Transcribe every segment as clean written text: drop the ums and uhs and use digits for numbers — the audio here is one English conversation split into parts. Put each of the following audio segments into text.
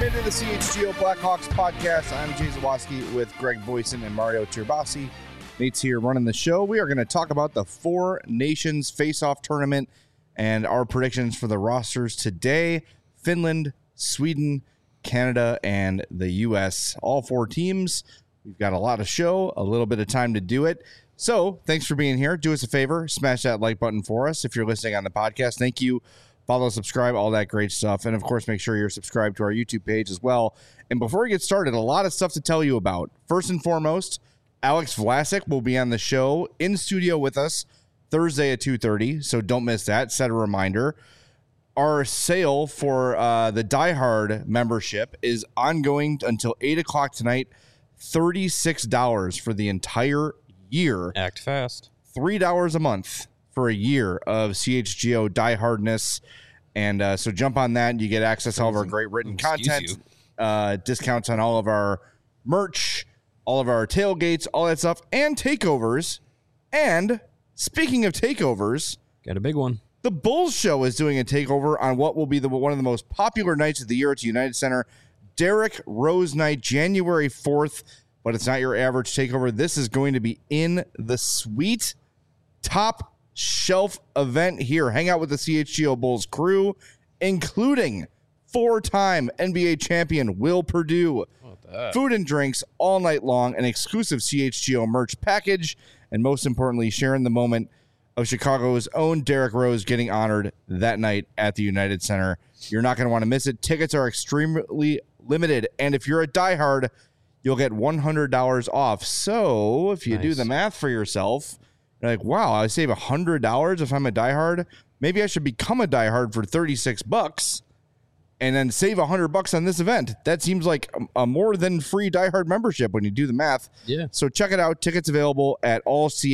into the CHGO Blackhawks podcast. I'm Jay Zawoski with Greg Boyson and Mario Turbasi. Nate's here running the show. We are going to talk about the Four Nations Face-Off Tournament and our predictions for the rosters today. Finland, Sweden, Canada, and the U.S. All four teams. We've got a lot of show, a little bit of time to do it. So thanks for being here. Do us a favor. Smash that like button for us if you're listening on the podcast. Thank you. Follow, subscribe, all that great stuff. And, of course, make sure you're subscribed to our YouTube page as well. And before we get started, a lot of stuff to tell you about. First and foremost, Alex Vlasic will be on the show in studio with us Thursday at 2:30, so don't miss that. Set a reminder. Our sale for the Die Hard membership is ongoing until 8 o'clock tonight. $36 for the entire year. Act fast. $3 a month for a year of CHGO Die Hardness. And so jump on that and you get access to all of our great written content, discounts on all of our merch, all of our tailgates, all that stuff, and takeovers. And speaking of takeovers, got a big one. The Bulls Show is doing a takeover on what will be one of the most popular nights of the year at United Center. Derrick Rose Night, January 4th, but it's not your average takeover. This is going to be in the suite, top shelf event here. Hang out with the CHGO Bulls crew, including four-time NBA champion Will Perdue. Food and drinks all night long, an exclusive CHGO merch package, and most importantly, sharing the moment of Chicago's own Derrick Rose getting honored that night at the United Center. You're not going to want to miss it. Tickets are extremely limited, and if you're a diehard, you'll get $100 off. So if you do the math for yourself, you're like, wow, I save $100 if I'm a diehard. Maybe I should become a diehard for $36 and then save $100 on this event. That seems like a more than free diehard membership when you do the math. Yeah. So check it out. Tickets available at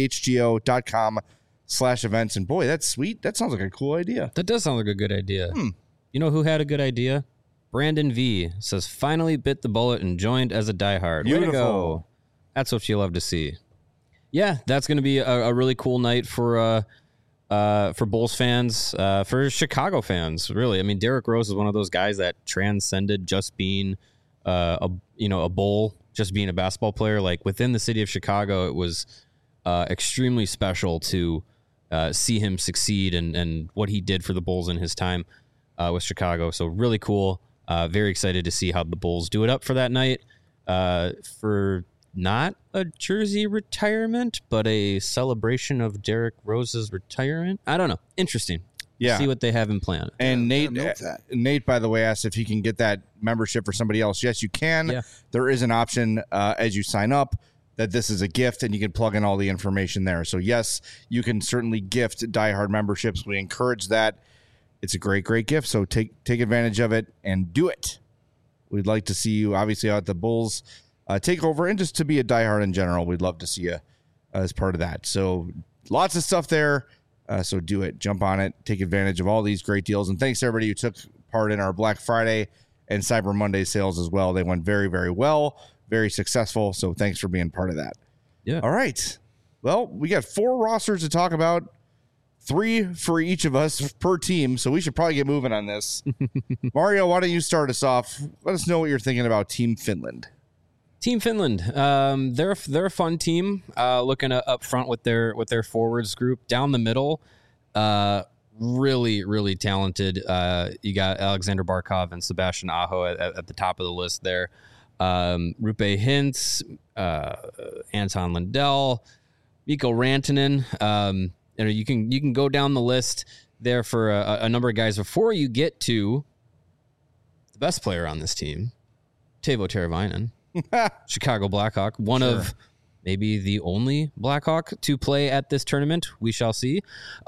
allchgo.com/events. And boy, that's sweet. That sounds like a cool idea. That does sound like a good idea. You know who had a good idea? Brandon V says, finally bit the bullet and joined as a diehard. Way to go. That's what you love to see. Yeah, that's going to be a really cool night for Bulls fans, for Chicago fans, really. I mean, Derrick Rose is one of those guys that transcended just being a Bull, just being a basketball player. Like within the city of Chicago, it was extremely special to see him succeed and what he did for the Bulls in his time with Chicago. So really cool. Very excited to see how the Bulls do it up for that night. For not a jersey retirement, but a celebration of Derrick Rose's retirement. I don't know. Interesting. Yeah. See what they have in plan. And Nate, by the way, asked if he can get that membership for somebody else. Yes, you can. Yeah. There is an option as you sign up that this is a gift, and you can plug in all the information there. So, yes, you can certainly gift diehard memberships. We encourage that. It's a great, great gift. So take advantage of it and do it. We'd like to see you, obviously, out at the Bulls take over, and just to be a diehard in general. We'd love to see you as part of that. So lots of stuff there. So do it. Jump on it. Take advantage of all these great deals. And thanks to everybody who took part in our Black Friday and Cyber Monday sales as well. They went very, very well, very successful. So thanks for being part of that. Yeah. All right. Well, we got 4 rosters to talk about, 3 for each of us per team. So we should probably get moving on this. Mario, why don't you start us off? Let us know what you're thinking about Team Finland. Team Finland, they're a fun team. Looking up front with their forwards group, down the middle, really, really talented. You got Alexander Barkov and Sebastian Aho at the top of the list there. Roope Hintz, Anton Lundell, Mikko Rantanen. You can go down the list there for a number of guys before you get to the best player on this team, Teuvo Teravainen. Chicago Blackhawk, one of maybe the only Blackhawk to play at this tournament. We shall see.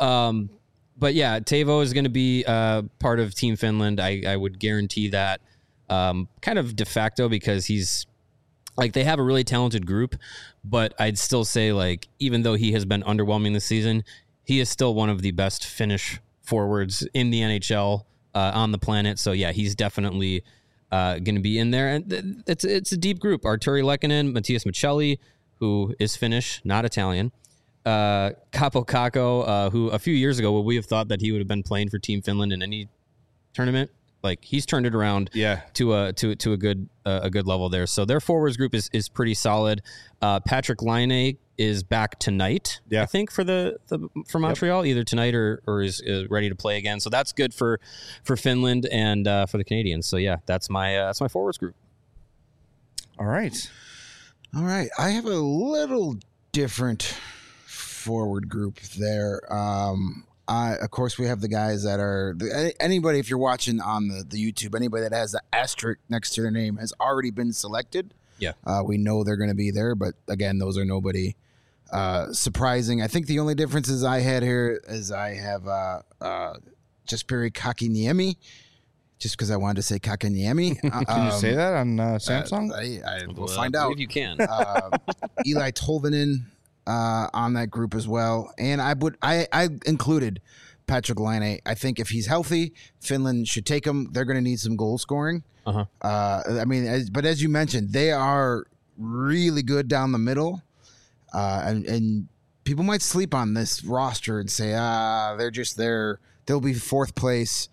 But yeah, Teuvo is going to be part of Team Finland. I would guarantee that, kind of de facto, because he's like, they have a really talented group, but I'd still say, like, even though he has been underwhelming this season, he is still one of the best Finnish forwards in the NHL on the planet. So yeah, he's definitely going to be in there. And it's a deep group. Arturi Lehkonen, Matthias Michelli, who is Finnish, not Italian. Kaapo Kakko, who a few years ago, would we have thought that he would have been playing for Team Finland in any tournament? Like he's turned it around to a good level there. So their forwards group is pretty solid. Patrick Laine is back tonight, I think, for Montreal, either tonight or is ready to play again. So that's good for Finland and for the Canadians. So yeah, that's my forwards group. All right. I have a little different forward group there. Of course, we have the guys that are anybody. If you're watching on the YouTube, anybody that has the asterisk next to their name has already been selected. Yeah, we know they're going to be there, but again, those are nobody surprising. I think the only differences I had here is I have Jesperi Kakiniemi, just because I wanted to say Kakiniemi. Can you say that on Samsung? I will find out. If you can. Eli Tolvanen on that group as well, and I included Patrick Laine. I think if he's healthy, Finland should take him. They're going to need some goal scoring. I mean, but as you mentioned, they are really good down the middle, and people might sleep on this roster and say, they're just there. They'll be fourth place.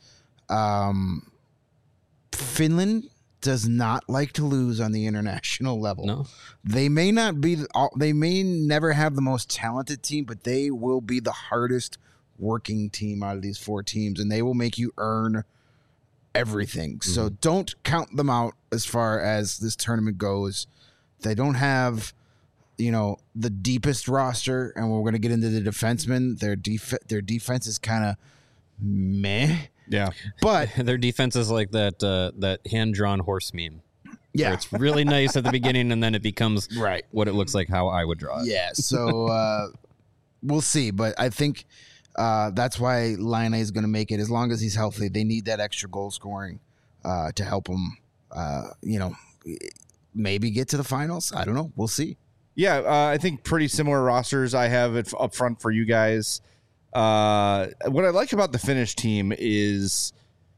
Finland does not like to lose on the international level. No. They may not be. They may never have the most talented team, but they will be the hardest working team out of these four teams, and they will make you earn everything. Mm-hmm. So don't count them out as far as this tournament goes. They don't have, the deepest roster, and we're going to get into the defensemen. Their defense is kind of meh. Yeah, but their defense is like that hand-drawn horse meme. Yeah, it's really nice at the beginning, and then it becomes right what it looks like how I would draw it. Yeah, so we'll see. But I think that's why Laine is going to make it. As long as he's healthy, they need that extra goal scoring to help him. Maybe get to the finals. I don't know. We'll see. Yeah, I think pretty similar rosters I have it up front for you guys. What I like about the Finnish team is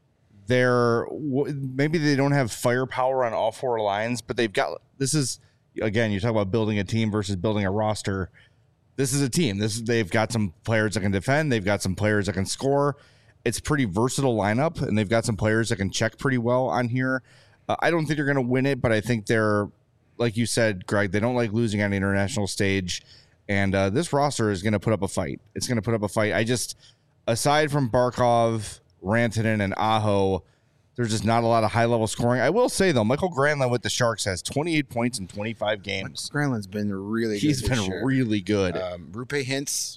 maybe they don't have firepower on all four lines, but they've got, this is, again, you talk about building a team versus building a roster. This is a team. They've got some players that can defend. They've got some players that can score. It's pretty versatile lineup, and they've got some players that can check pretty well on here. I don't think they're going to win it, but I think they're, like you said, Greg, they don't like losing on the international stage. And this roster is going to put up a fight. It's going to put up a fight. Aside from Barkov, Rantanen, and Aho, there's just not a lot of high-level scoring. I will say, though, Michael Granlund with the Sharks has 28 points in 25 games. Granlund's been really good. He's been really good. Roope Hintz,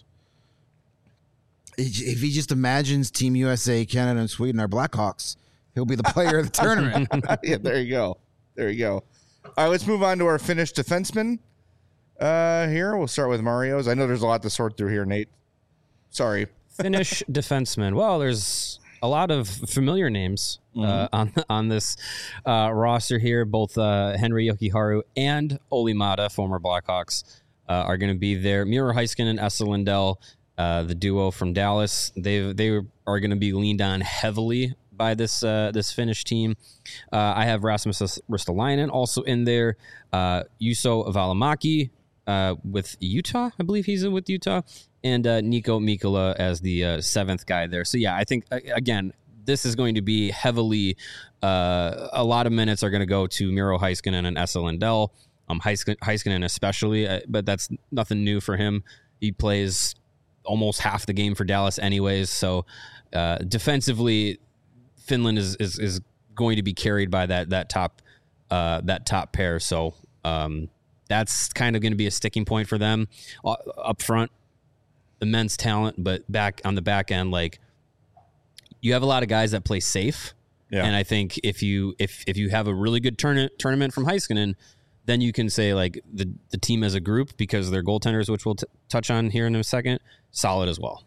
if he just imagines Team USA, Canada, and Sweden are Blackhawks, he'll be the player of the tournament. Yeah, there you go. All right, let's move on to our Finnish defensemen. Here we'll start with Mario's. I know there's a lot to sort through here, Nate. Sorry. Finnish defenseman. Well, there's a lot of familiar names on this roster here. Both Henri Jokiharju and Olli Maatta, former Blackhawks, are going to be there. Miro Heiskanen and Esa Lindell, the duo from Dallas, they are going to be leaned on heavily by this Finnish team. I have Rasmus Ristolainen also in there. Juuso Valimaki with Utah, I believe he's with Utah, and Nico Mikkola as the seventh guy there. So yeah, I think again this is going to be heavily. A lot of minutes are going to go to Miro Heiskanen and Esa Lindell. Heiskanen especially, but that's nothing new for him. He plays almost half the game for Dallas anyways. So defensively, Finland is going to be carried by that top pair. So that's kind of going to be a sticking point for them up front. Immense talent, but back on the back end, like you have a lot of guys that play safe. Yeah. And I think if you have a really good tournament from Heiskanen, then you can say like the team as a group, because their goaltenders, which we'll touch on here in a second, solid as well.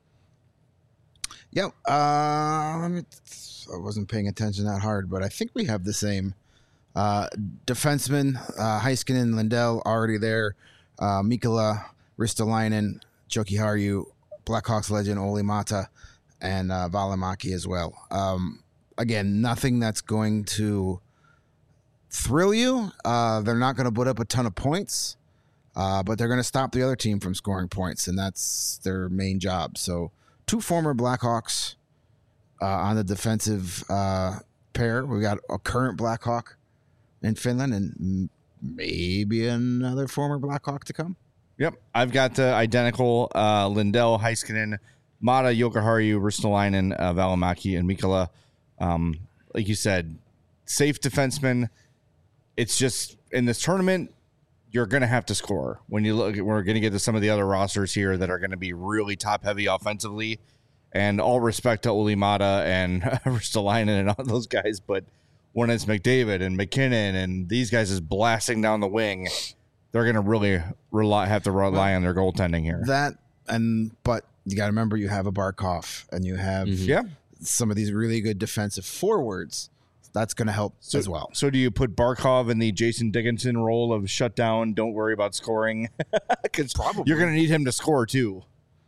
Yep. I wasn't paying attention that hard, but I think we have the same defensemen. Heiskanen, Lindell already there. Mikkola, Ristolainen, Jokiharju, Blackhawks legend Olli Maatta, and Valimaki as well. Again, nothing that's going to thrill you. They're not going to put up a ton of points, but they're going to stop the other team from scoring points, and that's their main job. So, two former Blackhawks on the defensive pair. We got a current Blackhawk in Finland and maybe another former Blackhawk to come. Yep. I've got the identical Lindell, Heiskanen, Mata, Jokiharju, Ristolainen, Välimäki, and Mikkola. Like you said, safe defensemen. It's just in this tournament, you're going to have to score. When you look, we're going to get to some of the other rosters here that are going to be really top heavy offensively. And all respect to Olli Mata and Ristolainen and all those guys, but when it's McDavid and McKinnon and these guys is blasting down the wing, they're going to really have to rely on their goaltending here. But you got to remember, you have a Barkov and you have some of these really good defensive forwards. That's going to help as well. So do you put Barkov in the Jason Dickinson role of shut down, don't worry about scoring? Because you're going to need him to score too.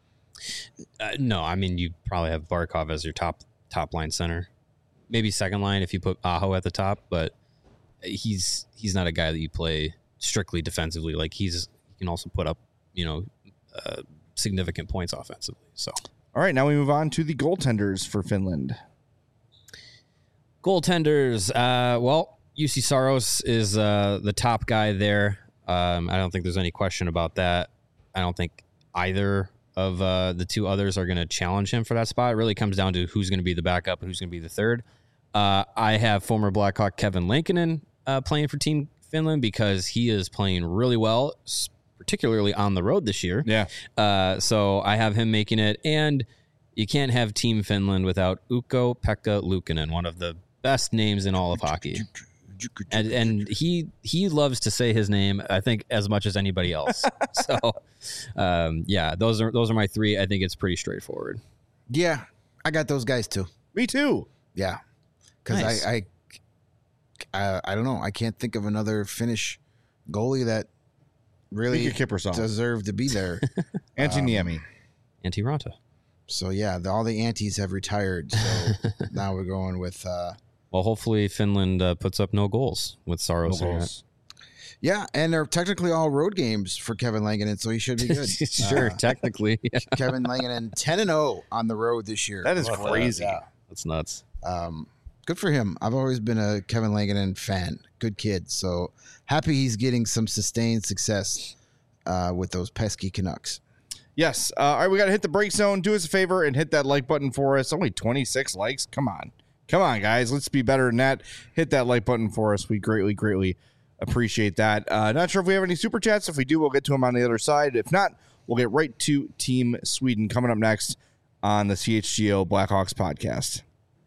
No, I mean, you probably have Barkov as your top line center. Maybe second line if you put Aho at the top, but he's not a guy that you play strictly defensively. Like he can also put up, significant points offensively. So, all right, now we move on to the goaltenders for Finland. Goaltenders. UC Saros is the top guy there. I don't think there's any question about that. I don't think either of the two others are going to challenge him for that spot. It really comes down to who's going to be the backup and who's going to be the third. I have former Blackhawk Kevin Lankinen playing for Team Finland because he is playing really well, particularly on the road this year. Yeah. So I have him making it. And you can't have Team Finland without Ukko-Pekka Luukkonen, one of the best names in all of hockey. And he loves to say his name, I think, as much as anybody else. So, those are my three. I think it's pretty straightforward. Yeah, I got those guys too. Me too. Yeah, because Nice. I don't know. I can't think of another Finnish goalie that really Mika Kiprusoff. deserved to be there. Antti Niemi. Antti Ranta. So yeah, all the antis have retired. So now we're going with. Well, hopefully Finland puts up no goals with Saros. No in goals. Yeah, and they're technically all road games for Kevin Lankinen, so he should be good. Sure, technically. Yeah. Kevin Lankinen 10-0 on the road this year. That is Love crazy. Yeah. That's nuts. Good for him. I've always been a Kevin Lankinen fan. Good kid. So happy he's getting some sustained success with those pesky Canucks. Yes. All right, we got to hit the break zone. Do us a favor and hit that like button for us. Only 26 likes. Come on, guys. Let's be better than that. Hit that like button for us. We greatly, greatly appreciate that. Not sure if we have any super chats. If we do, we'll get to them on the other side. If not, we'll get right to Team Sweden coming up next on the CHGO Blackhawks podcast.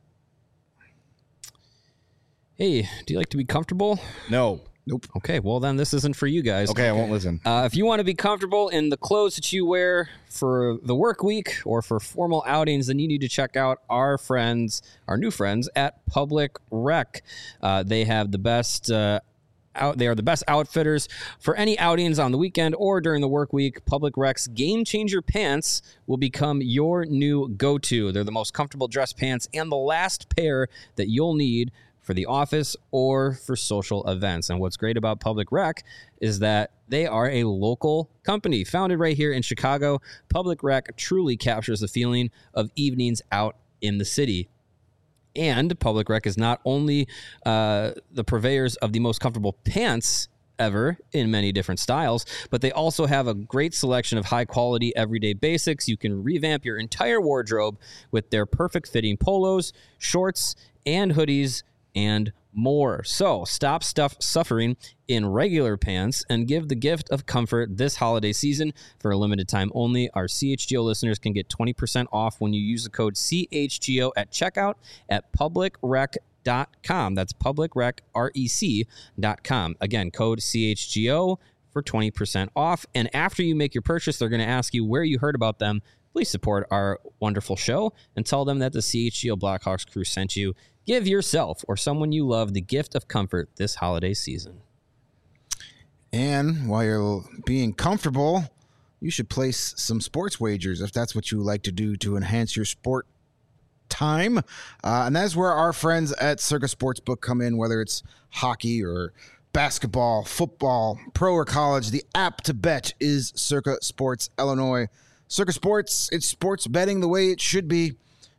Hey, do you like to be comfortable? No. Nope. Okay, well then this isn't for you guys. Okay, I won't listen. If you want to be comfortable in the clothes that you wear for the work week or for formal outings, then you need to check out our new friends at Public Rec. They have the best they are the best outfitters for any outings on the weekend or during the work week. Public Rec's Game Changer pants will become your new go-to. They're the most comfortable dress pants and the last pair that you'll need for the office or for social events. And what's great about Public Rec is that they are a local company founded right here in Chicago. Public Rec truly captures the feeling of evenings out in the city. And Public Rec is not only the purveyors of the most comfortable pants ever in many different styles, but they also have a great selection of high quality everyday basics. You can revamp your entire wardrobe with their perfect fitting polos, shorts, and hoodies, and more. So stop suffering in regular pants and give the gift of comfort this holiday season. For a limited time only, our CHGO listeners can get 20% off when you use the code CHGO at checkout at publicrec.com. That's publicrec.com. Again, code CHGO for 20% off. And after you make your purchase, they're going to ask you where you heard about them. Please support our wonderful show and tell them that the CHGO Blackhawks crew sent you. Give yourself or someone you love the gift of comfort this holiday season. And while you're being comfortable, you should place some sports wagers if that's what you like to do to enhance your sport time. And that's where our friends at Circa Sportsbook come in, whether it's hockey or basketball, football, pro or college. The app to bet is Circa Sports Illinois. Circa Sports, it's sports betting the way it should be.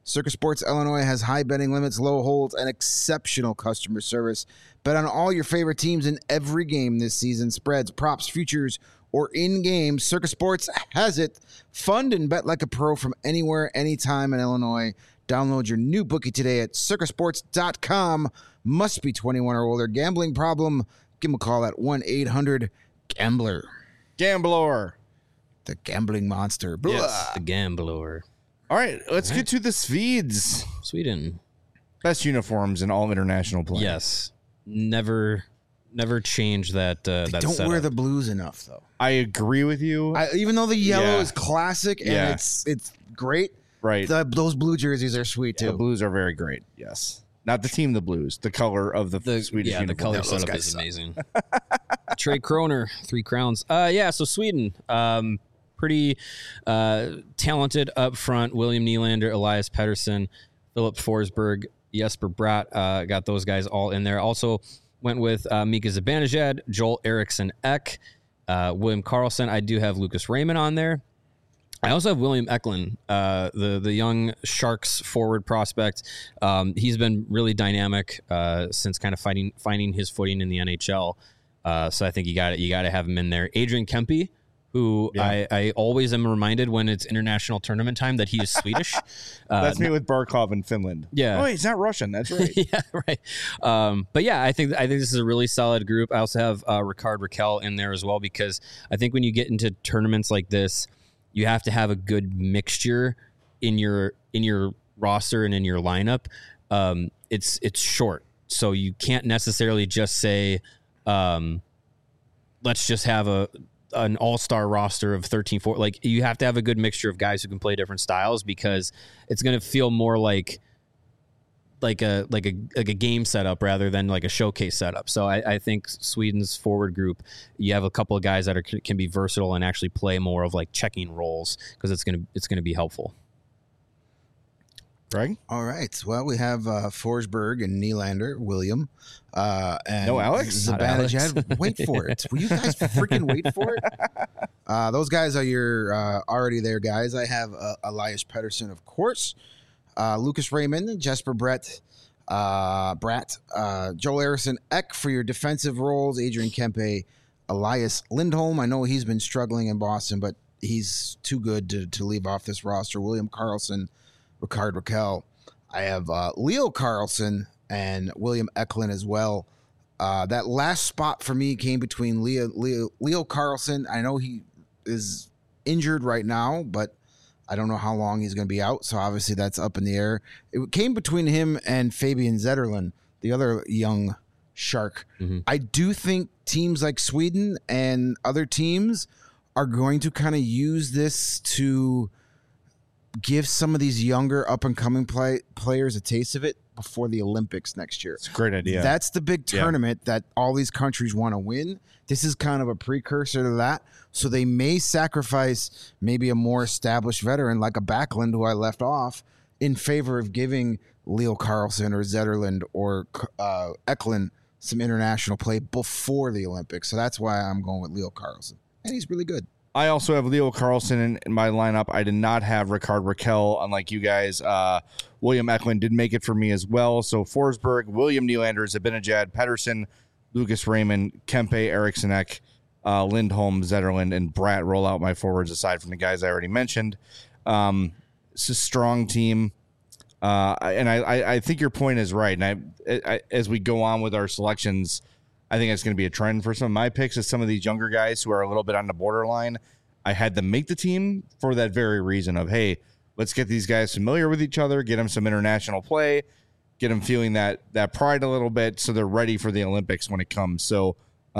Circus Sports Illinois has high betting limits, low holds, and exceptional customer service. Bet on all your favorite teams in every game this season. Spreads, props, futures, or in-game. Circus Sports has it. Fund and bet like a pro from anywhere, anytime in Illinois. Download your new bookie today at circusports.com. Must be 21 or older. Gambling problem? Give them a call at 1-800-GAMBLER. Gambler. The gambling monster. Yes. The Gambler. All right, let's get to the Swedes. Sweden. Best uniforms in all international play. Yes. Never change that. They that don't setup. wear the blues enough, though. I agree with you. Even though the yellow Yeah. is classic and Yeah. it's great, Right. those blue jerseys are sweet, too. The Blues are very great. Yes. Not the team, the Blues. The color of the Swedish the uniform. color Those setup guys is suck. amazing. Trey Kroner, 3 crowns. So Sweden, pretty talented up front. William Nylander, Elias Pettersson, Philip Forsberg, Jesper Bratt, got those guys all in there. Also went with Mika Zibanejad, Joel Eriksson Ek, William Karlsson. I do have Lucas Raymond on there. I also have William Eklund, the young Sharks forward prospect. He's been really dynamic since kind of finding his footing in the NHL. So I think you got to have him in there. Adrian Kempe, who I always am reminded when it's international tournament time that he is Swedish. That's me with Barkov in Finland. Yeah. Oh, he's not Russian. That's right. Yeah, right. But yeah, I think this is a really solid group. I also have Ricard Raquel in there as well, because I think when you get into tournaments like this, you have to have a good mixture in your roster and in your lineup. It's short, so you can't necessarily just say, let's just have an all-star roster of 13-4. Like, you have to have a good mixture of guys who can play different styles, because it's going to feel more like a game setup rather than like a showcase setup. So I think Sweden's forward group, you have a couple of guys that can be versatile and actually play more of like checking roles, because it's gonna be helpful. Greg? All right. Well, we have Forsberg and Nylander, William, and No Alex? Not Alex. Zibanejad. Wait for it. Will you guys freaking wait for it? Those guys are your already there guys. I have Elias Pettersson, of course. Lucas Raymond, Jesper Bratt, Joel Eriksson Ek for your defensive roles, Adrian Kempe, Elias Lindholm. I know he's been struggling in Boston, but he's too good to leave off this roster. William Karlsson, Ricard Raquel. I have Leo Carlson and William Eklund as well. That last spot for me came between Leo Carlson. I know he is injured right now, but I don't know how long he's going to be out, so obviously that's up in the air. It came between him and Fabian Zetterlund, the other young Shark. Mm-hmm. I do think teams like Sweden and other teams are going to kind of use this to give some of these younger up-and-coming players a taste of it before the Olympics next year. It's a great idea. That's the big tournament that all these countries want to win. This is kind of a precursor to that. So they may sacrifice maybe a more established veteran like a Backlund, who I left off, in favor of giving Leo Carlsson or Zetterlund or Eklund some international play before the Olympics. So that's why I'm going with Leo Carlsson. And he's really good. I also have Leo Carlsson in my lineup. I did not have Ricard Raquel, unlike you guys. William Eklund did make it for me as well. So Forsberg, William Nylander, Zibanejad, Pettersson, Lucas Raymond, Kempe, Eriksson Ek, Lindholm, Zetterlund, and Bratt roll out my forwards aside from the guys I already mentioned. It's a strong team. And I think your point is right. And I as we go on with our selections, I think it's going to be a trend for some of my picks, is some of these younger guys who are a little bit on the borderline. I had them make the team for that very reason of, hey, let's get these guys familiar with each other, get them some international play, get them feeling that pride a little bit, so they're ready for the Olympics when it comes. So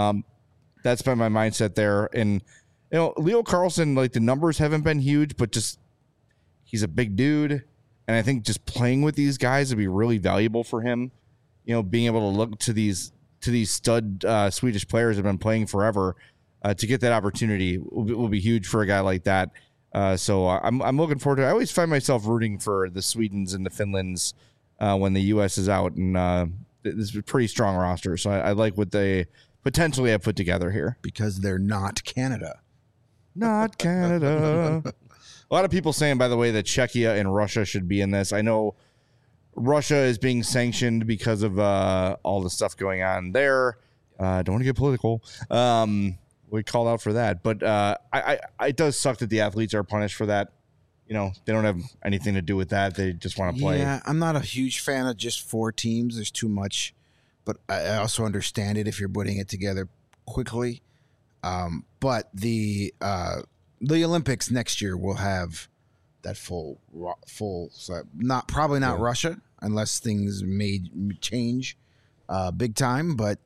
that's been my mindset there. And, you know, Leo Carlsson, like, the numbers haven't been huge, but just he's a big dude. And I think just playing with these guys would be really valuable for him. You know, being able to look to these stud Swedish players that have been playing forever, to get that opportunity will be huge for a guy like that. So I'm looking forward to it. I always find myself rooting for the Swedens and the Finlands when the U.S. is out, and this is a pretty strong roster. So I like what they potentially have put together here. Because they're not Canada. Not Canada. A lot of people saying, by the way, that Czechia and Russia should be in this. I know Russia is being sanctioned because of all the stuff going on there. Don't want to get political. We called out for that. But it does suck that the athletes are punished for that. You know, they don't have anything to do with that. They just want to play. Yeah, I'm not a huge fan of just 4 teams. There's too much. But I also understand it if you're putting it together quickly. But the Olympics next year will have that full. So probably not Russia unless things may change big time. But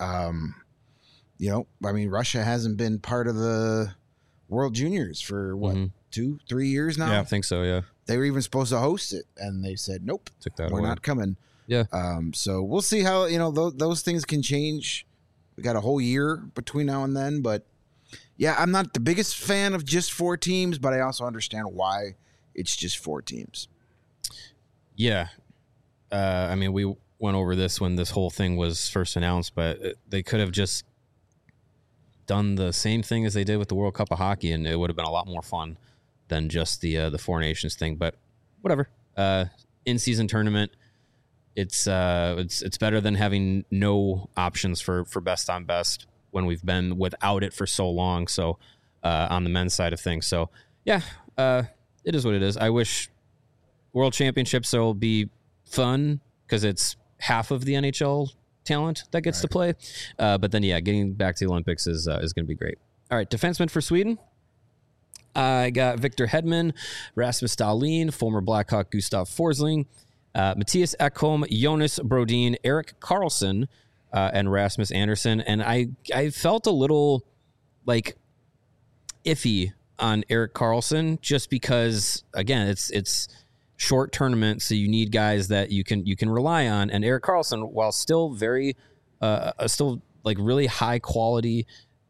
Russia hasn't been part of the World Juniors for what 2-3 years now. Yeah, I think so. Yeah, they were even supposed to host it, and they said nope, we're not coming. Yeah. So we'll see how those things can change. We got a whole year between now and then, but yeah, I'm not the biggest fan of just 4 teams, but I also understand why it's just 4 teams. Yeah. We went over this when this whole thing was first announced, but they could have just done the same thing as they did with the World Cup of Hockey, and it would have been a lot more fun than just the 4 nations thing. But whatever. In-season tournament. It's better than having no options for best on best when we've been without it for so long. So on the men's side of things. So yeah, it is what it is. I wish World Championships will be fun because it's half of the NHL talent that gets to play. But then getting back to the Olympics is going to be great. All right, defenseman for Sweden. I got Victor Hedman, Rasmus Dahlin, former Blackhawk Gustav Forsling, Matthias Ekholm, Jonas Brodin, Erik Karlsson, and Rasmus Andersson. And I felt a little like iffy on Erik Karlsson just because, again, it's short tournament, so you need guys that you can rely on. And Erik Karlsson, while still very still like really high quality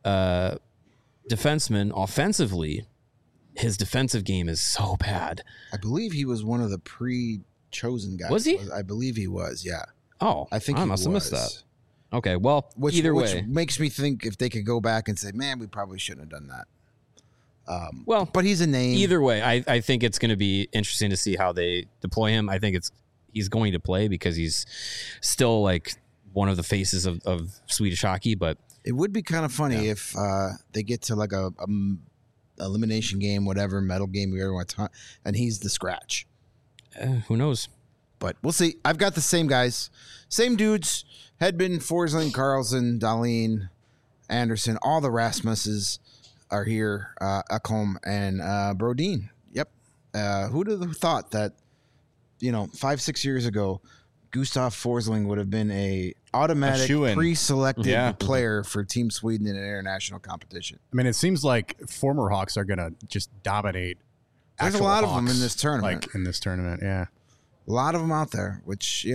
defenseman offensively, his defensive game is so bad. I believe he was one of the chosen guys. Was he? I believe he was, yeah. Oh, I think I he must have missed was. that. Okay, well, which way. Makes me think if they could go back and say, man, we probably shouldn't have done that. But he's a name. Either way, I think it's going to be interesting to see how they deploy him. I think he's going to play because he's still like one of the faces of Swedish hockey. But it would be kind of funny if they get to like a elimination game, whatever, medal game, whatever you want to, and he's the scratch. Who knows? But we'll see. I've got the same guys, same dudes: Hedman, Forsling, Karlsson, Dahlin, Anderson. All the Rasmuses are here. Ekholm and Brodin. Yep. Who'd have thought that? 5-6 years ago, Gustav Forsling would have been a automatic pre-selected player for Team Sweden in an international competition. I mean, it seems like former Hawks are going to just dominate. There's a lot of them in this tournament. Yeah. A lot of them out there, which,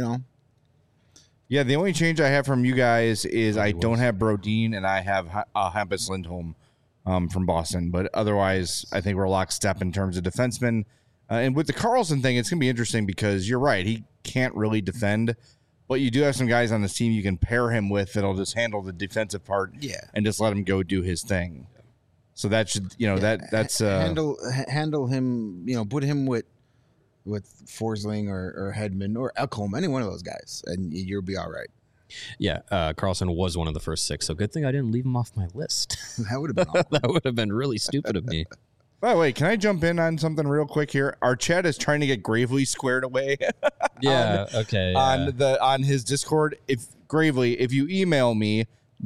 Yeah, the only change I have from you guys is I don't have Brodin and I have Hampus Lindholm from Boston. But otherwise, I think we're lockstep in terms of defensemen. And with the Karlsson thing, it's going to be interesting because you're right. He can't really defend. But you do have some guys on this team you can pair him with that'll just handle the defensive part and just let him go do his thing. So that should, that's handle him, put him with Forsling or Hedman or Ekholm, any one of those guys, and you'll be all right. Yeah, Karlsson was one of the first 6, so good thing I didn't leave him off my list. That would have been awful. That would have been really stupid of me. By the way, can I jump in on something real quick here? Our chat is trying to get Gravely squared away. Okay. On his Discord. If you email me,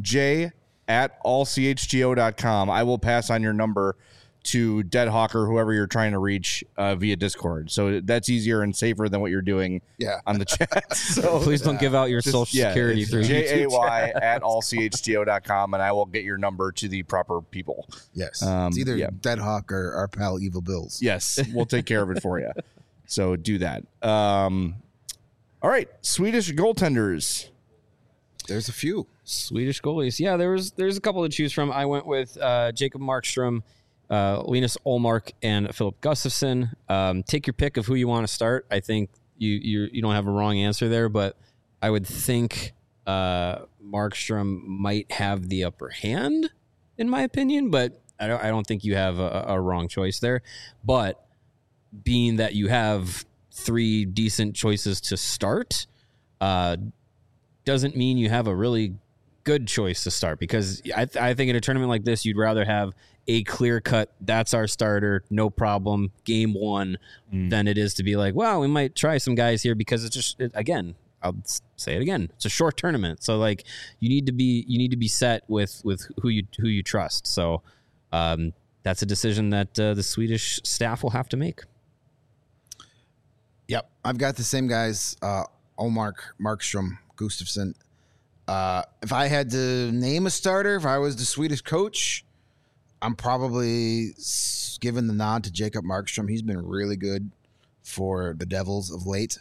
j@allchgo.com, I will pass on your number to Dead Hawk or whoever you're trying to reach via Discord. So that's easier and safer than what you're doing on the chat. So please don't give out your social security through JAY@allchgo.com, and I will get your number to the proper people. Yes. It's either Dead Hawk or our pal Evil Bills. Yes, we'll take care of it for you. So do that. All right, Swedish goaltenders. There's a few. Swedish goalies. Yeah, there's a couple to choose from. I went with Jacob Markstrom, Linus Ullmark, and Philip Gustafsson. Take your pick of who you want to start. I think you don't have a wrong answer there, but I would think Markstrom might have the upper hand, in my opinion. But I don't think you have a wrong choice there. But being that you have 3 decent choices to start, doesn't mean you have a really good choice to start, because I think in a tournament like this, you'd rather have a clear cut, that's our starter, no problem, game 1, than it is to be like, well, we might try some guys here, because it's just, again, I'll say it again, it's a short tournament. So like you need to be set with who you trust. So that's a decision that the Swedish staff will have to make. Yep. I've got the same guys, Olmark, Markstrom, Gustafsson. If I had to name a starter, if I was the Swedish coach, I'm probably giving the nod to Jacob Markstrom. He's been really good for the Devils of late.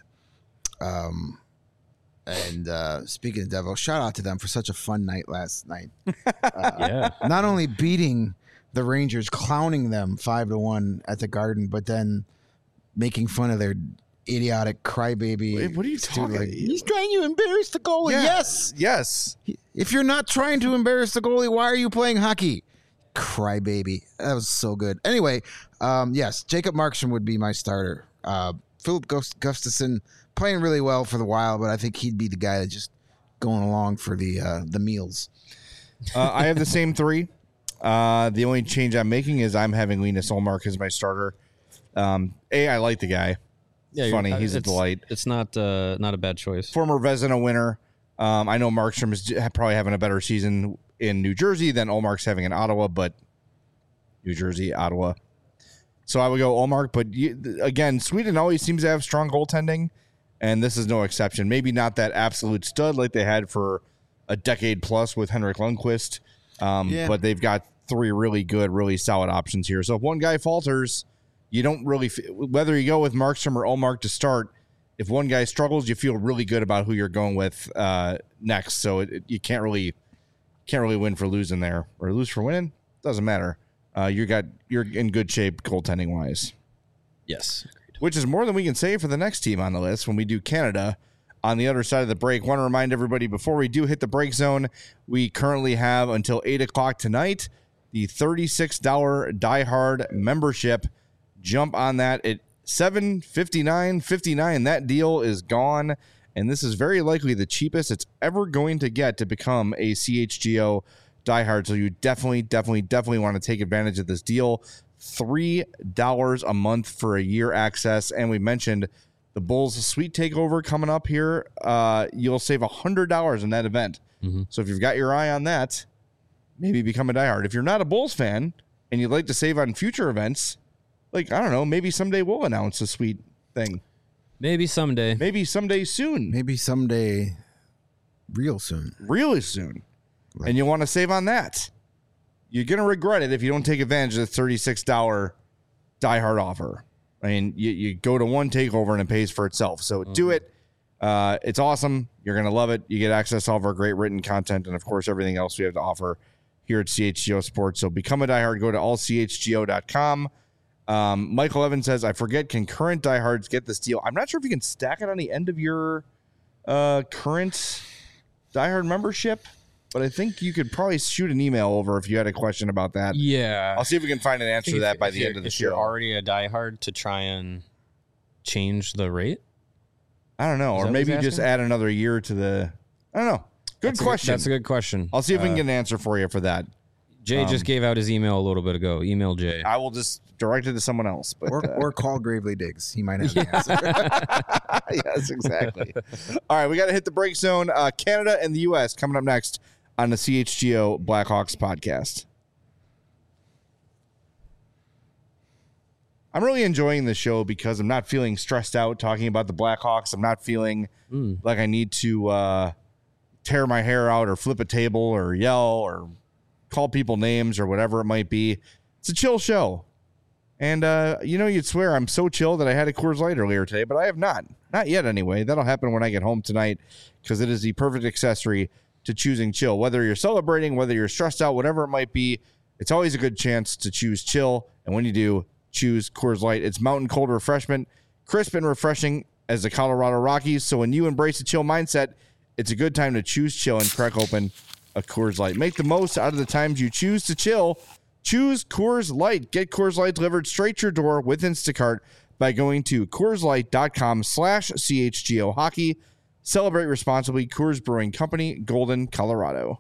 And speaking of Devils, shout out to them for such a fun night last night. Yeah. Not only beating the Rangers, clowning them 5-1 at the Garden, but then making fun of their idiotic crybaby. Wait, what are you talking about? He's trying to embarrass the goalie. Yes. Yes. If you're not trying to embarrass the goalie, why are you playing hockey? Crybaby. That was so good. Anyway, yes, Jacob Markstrom would be my starter. Philip Gustafsson playing really well for the Wild, but I think he'd be the guy that's just going along for the meals. I have the same 3. The only change I'm making is I'm having Linus Ullmark as my starter. I like the guy. Yeah, funny. He's a delight. It's not a bad choice. Former Vezina winner. I know Markstrom is probably having a better season in New Jersey than Ullmark's having in Ottawa, but New Jersey, Ottawa. So I would go Ullmark. But again, Sweden always seems to have strong goaltending, and this is no exception. Maybe not that absolute stud like they had for a decade plus with Henrik Lundqvist, but they've got 3 really good, really solid options here. So if one guy falters, you don't really, whether you go with Markstrom or Ullmark to start, if one guy struggles, you feel really good about who you're going with next. So you can't really win for losing there, or lose for winning. Doesn't matter. You're in good shape goaltending wise. Yes. Agreed. Which is more than we can say for the next team on the list when we do Canada on the other side of the break. Want to remind everybody before we do hit the break zone, we currently have until 8:00 tonight the $36 Die Hard membership. Jump on that at $759.59. That deal is gone, and this is very likely the cheapest it's ever going to get to become a CHGO diehard. So you definitely want to take advantage of this deal. $3 a month for a year access, and we mentioned the Bulls Sweet Takeover coming up here. You'll save $100 in that event. Mm-hmm. So if you've got your eye on that, maybe become a diehard. If you're not a Bulls fan and you'd like to save on future events, like, I don't know, maybe someday we'll announce a sweet thing. Maybe someday. Maybe someday soon. Maybe someday real soon. Really soon. And you want to save on that. You're going to regret it if you don't take advantage of the $36 diehard offer. I mean, you go to one takeover and it pays for itself. So do it. It's awesome. You're going to love it. You get access to all of our great written content and, of course, everything else we have to offer here at CHGO Sports. So become a diehard. Go to allchgo.com. Michael Evans says, I forget, can current diehards get this deal? I'm not sure if you can stack it on the end of your current diehard membership, but I think you could probably shoot an email over if you had a question about that. Yeah. I'll see if we can find an answer to that by the end of the show. If you're already a diehard, to try and change the rate? I don't know. Or maybe just add another year to the... I don't know. Good question. That's a good question. I'll see if we can get an answer for you for that. Jay just gave out his email a little bit ago. Email Jay. I will just direct it to someone else. But, or call Gravely Diggs. He might have the answer. Yes, exactly. All right, we got to hit the break zone. Canada and the U.S. coming up next on the CHGO Blackhawks podcast. I'm really enjoying the show because I'm not feeling stressed out talking about the Blackhawks. I'm not feeling like I need to tear my hair out or flip a table or yell or call people names or whatever it might be. It's a chill show. And, you'd swear I'm so chill that I had a Coors Light earlier today, but I have not. Not yet, anyway. That'll happen when I get home tonight because it is the perfect accessory to choosing chill. Whether you're celebrating, whether you're stressed out, whatever it might be, it's always a good chance to choose chill. And when you do, choose Coors Light. It's mountain cold refreshment, crisp and refreshing as the Colorado Rockies. So when you embrace a chill mindset, it's a good time to choose chill and crack open a Coors Light. Make the most out of the times you choose to chill Choose Coors Light. Get Coors Light delivered straight to your door with Instacart by going to CoorsLight.com/CHGO Hockey. Celebrate responsibly. Coors Brewing Company, Golden, Colorado.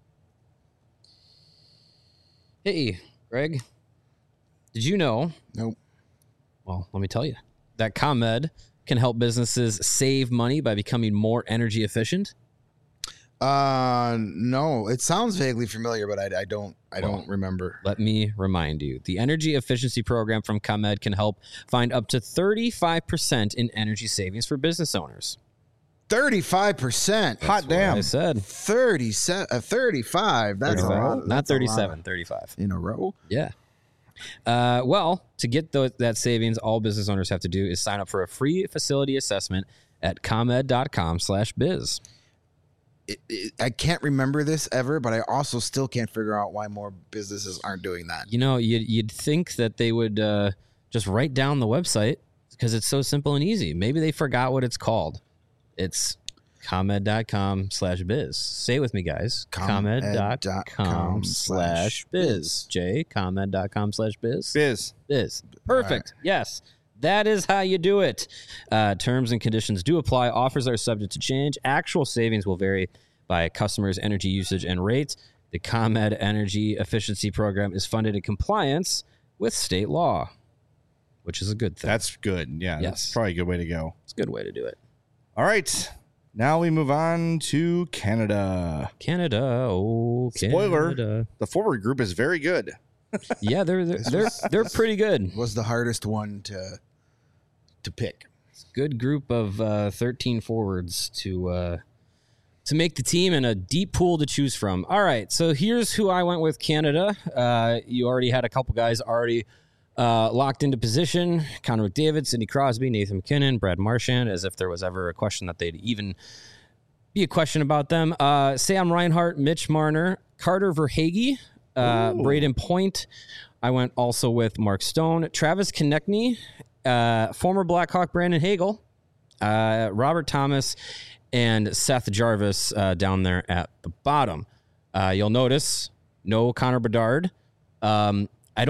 Hey, Greg, did you know? Nope. Well, let me tell you that ComEd can help businesses save money by becoming more energy efficient. No, it sounds vaguely familiar, but I don't remember. Let me remind you, the energy efficiency program from ComEd can help find up to 35% in energy savings for business owners. 35%. Hot damn. I said 35. That's a lot. not That's a lot 37, 35. in a row. Yeah. Well, to get that savings, all business owners have to do is sign up for a free facility assessment at comed.com/biz. I can't remember this ever, but I also still can't figure out why more businesses aren't doing that. You know, you'd think that they would just write down the website because it's so simple and easy. Maybe they forgot what it's called. It's comed.com/biz. Say it with me, guys. Comed.com/biz. Jay, comed.com/biz. Biz. Perfect. Yes. That is how you do it. Terms and conditions do apply. Offers are subject to change. Actual savings will vary by customers' energy usage and rates. The ComEd Energy Efficiency Program is funded in compliance with state law, which is a good thing. That's good. Yeah, Yes. that's probably a good way to go. It's a good way to do it. All right. Now we move on to Canada. Canada. Oh, Spoiler. Canada. The forward group is very good. Yeah, they're pretty good. Was the hardest one to pick. Good group of 13 forwards to make the team and a deep pool to choose from. All right, so here's who I went with Canada. You already had a couple guys already locked into position. Connor McDavid, Sidney Crosby, Nathan McKinnon, Brad Marchand, as if there was ever a question that they'd even be a question about them. Sam Reinhart, Mitch Marner, Carter Verhaeghe, Braden Point. I went also with Mark Stone, Travis Konechny, former Blackhawk Brandon Hagel, Robert Thomas, and Seth Jarvis down there at the bottom. You'll notice no Connor Bedard. I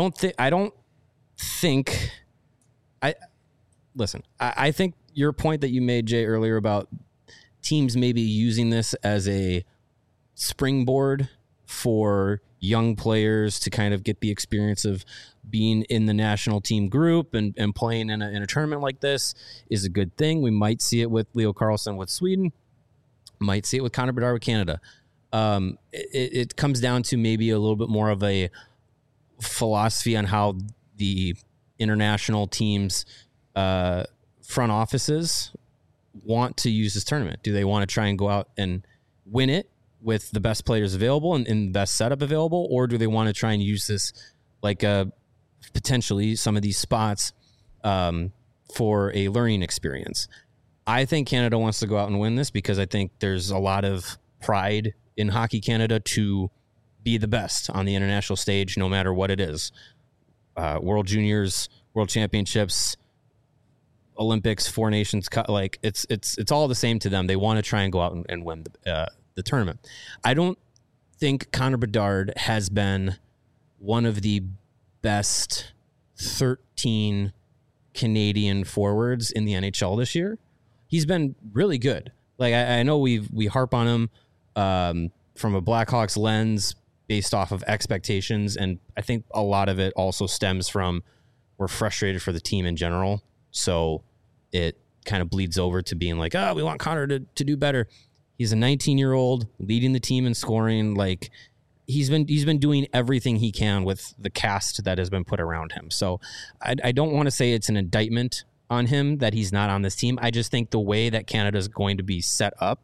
think your point that you made, Jay, earlier about teams maybe using this as a springboard for young players to kind of get the experience of being in the national team group and playing in a tournament like this is a good thing. We might see it with Leo Carlsson with Sweden, might see it with Connor Bedard with Canada. It comes down to maybe a little bit more of a philosophy on how the international teams front offices want to use this tournament. Do they want to try and go out and win it with the best players available and the best setup available, or do they want to try and use this like potentially some of these spots for a learning experience? I think Canada wants to go out and win this because I think there's a lot of pride in Hockey Canada to be the best on the international stage, no matter what it is. World Juniors, World Championships, Olympics, Four Nations Cup, like it's all the same to them. They want to try and go out and win the tournament. I don't think Connor Bedard has been one of the best 13 Canadian forwards in the NHL this year. He's been really good. Like I know we harp on him from a Blackhawks lens based off of expectations, and I think a lot of it also stems from we're frustrated for the team in general. So it kind of bleeds over to being like, we want Connor to do better. He's a 19-year-old leading the team in scoring. Like he's been doing everything he can with the cast that has been put around him. So I don't want to say it's an indictment on him that he's not on this team. I just think the way that Canada is going to be set up,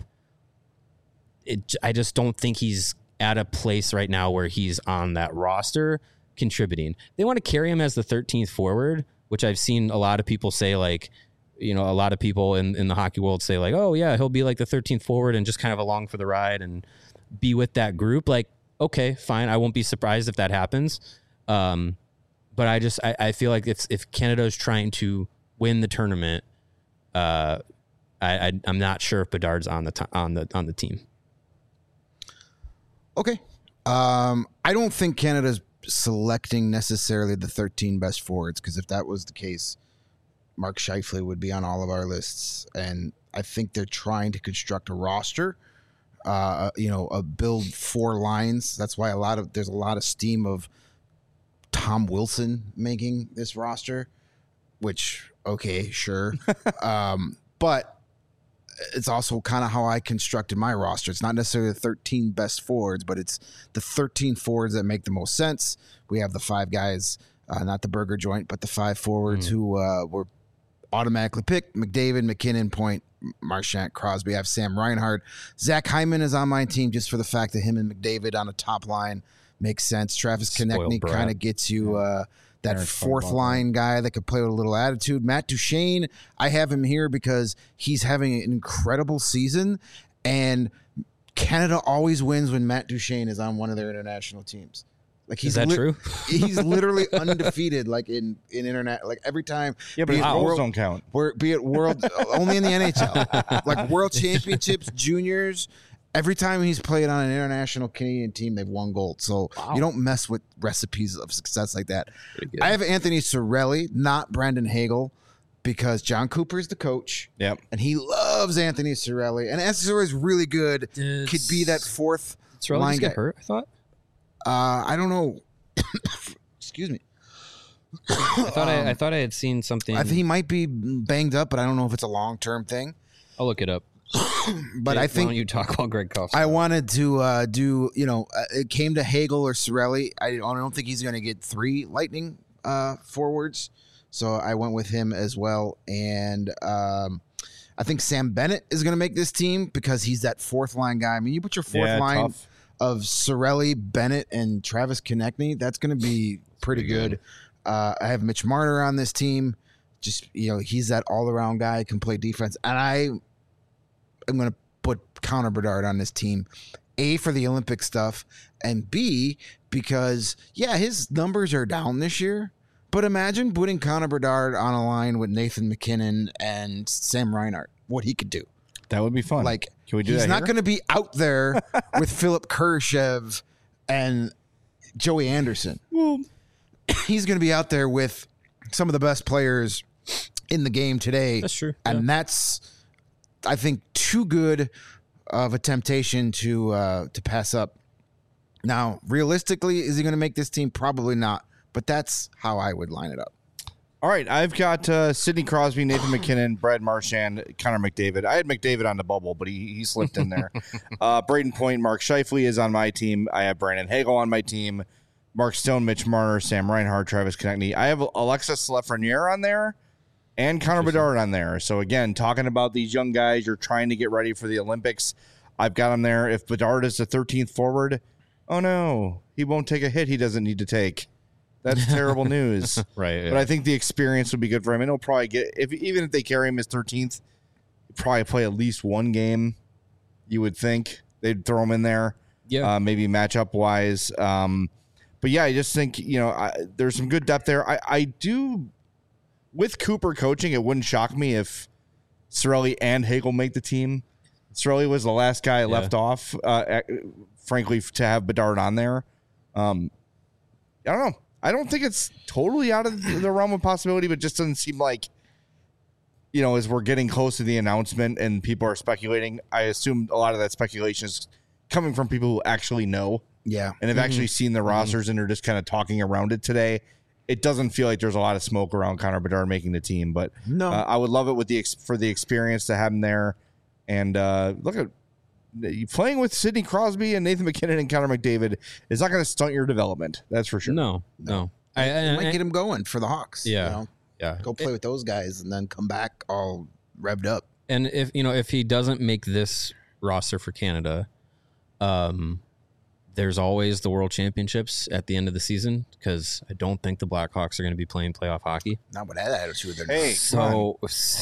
I just don't think he's at a place right now where he's on that roster contributing. They want to carry him as the 13th forward, which I've seen a lot of people say, like, you know, a lot of people in the hockey world say like, oh yeah, he'll be like the 13th forward and just kind of along for the ride and be with that group. Like, okay, fine. I won't be surprised if that happens. But I feel like if Canada is trying to win the tournament, I'm not sure if Bedard's on the team. Okay. I don't think Canada's selecting necessarily the 13 best forwards, because if that was the case, Mark Scheifele would be on all of our lists. And I think they're trying to construct a roster, build 4 lines. That's why there's a lot of steam of Tom Wilson making this roster, which, okay, sure. But it's also kind of how I constructed my roster. It's not necessarily the 13 best forwards, but it's the 13 forwards that make the most sense. We have the 5 guys, not the burger joint, but the 5 forwards who were automatically picked: McDavid, McKinnon, Point, Marchand, Crosby. I have Sam Reinhart. Zach Hyman is on my team just for the fact that him and McDavid on a top line makes sense. Travis Konechny kind of gets you that fourth line guy that could play with a little attitude. Matt Duchene, I have him here because he's having an incredible season, and Canada always wins when Matt Duchene is on one of their international teams. Like, is that true? He's literally undefeated, like in internet, like every time. Yeah, but goals don't count. Be it world only in the NHL, like World Championships, juniors. Every time he's played on an international Canadian team, they've won gold. So you don't mess with recipes of success like that. I have Anthony Cirelli, not Brandon Hagel, because John Cooper is the coach. Yep. And he loves Anthony Cirelli. And Anthony Cirelli is really good. Could be that fourth line guy. Hurt, I thought. I don't know. Excuse me. I thought I had seen something. I think he might be banged up, but I don't know if it's a long-term thing. I'll look it up. But Jake, I think why don't you talk while Greg coughs? I wanted to do, it came to Hagel or Cirelli. I don't think he's going to get 3 Lightning forwards, so I went with him as well. And I think Sam Bennett is going to make this team because he's that fourth line guy. I mean, you put your fourth line of Cirelli, Bennett, and Travis Konechny, that's going to be pretty good. I have Mitch Marner on this team. Just, he's that all-around guy, can play defense. And I'm going to put Connor Bedard on this team, A, for the Olympic stuff, and B, because, his numbers are down this year. But imagine putting Connor Bedard on a line with Nathan McKinnon and Sam Reinhart, what he could do. That would be fun. Like, can we do he's that? Not going to be out there with Philip Kurashev and Joey Anderson. Well, he's going to be out there with some of the best players in the game today. That's true. And that's, I think, too good of a temptation to pass up. Now, realistically, is he going to make this team? Probably not. But that's how I would line it up. All right, I've got Sidney Crosby, Nathan McKinnon, Brad Marchand, Connor McDavid. I had McDavid on the bubble, but he slipped in there. Braden Point, Mark Scheifele is on my team. I have Brandon Hagel on my team. Mark Stone, Mitch Marner, Sam Reinhart, Travis Konechny. I have Alexis Lafreniere on there and Connor Bedard on there. So, again, talking about these young guys, you're trying to get ready for the Olympics. I've got him there. If Bedard is the 13th forward, oh, no, he won't take a hit he doesn't need to take. That's terrible news. Right. Yeah. But I think the experience would be good for him. And he'll probably get, even if they carry him as 13th, he'll probably play at least one game, you would think. They'd throw him in there. Yeah. Maybe matchup wise. But yeah, I just think, there's some good depth there. I do, with Cooper coaching, it wouldn't shock me if Cirelli and Hagel make the team. Cirelli was the last guy left off, frankly, to have Bedard on there. I don't know. I don't think it's totally out of the realm of possibility, but it just doesn't seem like, as we're getting close to the announcement and people are speculating, I assume a lot of that speculation is coming from people who actually know. Yeah. And have actually seen the rosters and are just kind of talking around it today. It doesn't feel like there's a lot of smoke around Connor Bedard making the team, but no, I would love it for the experience to have him there. And look at playing with Sidney Crosby and Nathan McKinnon and Connor McDavid is not going to stunt your development. That's for sure. No. It might get him going for the Hawks. Yeah. Go play with those guys and then come back all revved up. And if he doesn't make this roster for Canada, there's always the World Championships at the end of the season, because I don't think the Blackhawks are going to be playing playoff hockey. Not with that attitude. Hey, so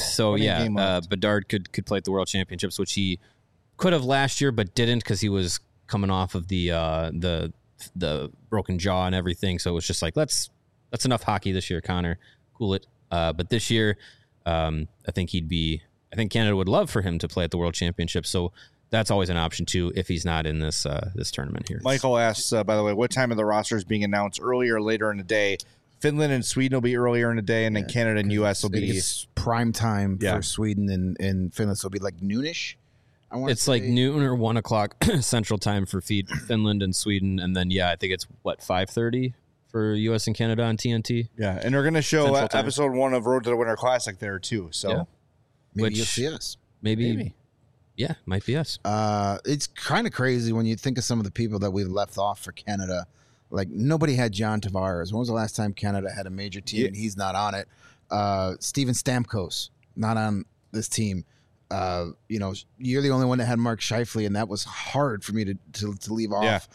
Bedard could play at the World Championships, which he could have last year, but didn't because he was coming off of the broken jaw and everything. So it was just like, that's enough hockey this year, Connor. Cool it. But this year, I think Canada would love for him to play at the World Championship. So that's always an option too if he's not in this this tournament here. Michael asks, by the way, what time of the roster is being announced, earlier or later in the day? Finland and Sweden will be earlier in the day, and then Canada and U.S. will be prime time for Sweden and Finland. So it'll be like noonish. It's like noon or 1 o'clock Central Time for Finland and Sweden, and then I think it's 5:30 for U.S. and Canada on TNT. Yeah, and they're going to show episode 1 of Road to the Winter Classic there too. So maybe you'll see us. Maybe. Yeah, might be us. It's kind of crazy when you think of some of the people that we've left off for Canada. Like, nobody had John Tavares. When was the last time Canada had a major team and he's not on it? Steven Stamkos, not on this team. You're the only one that had Mark Scheifele, and that was hard for me to leave off.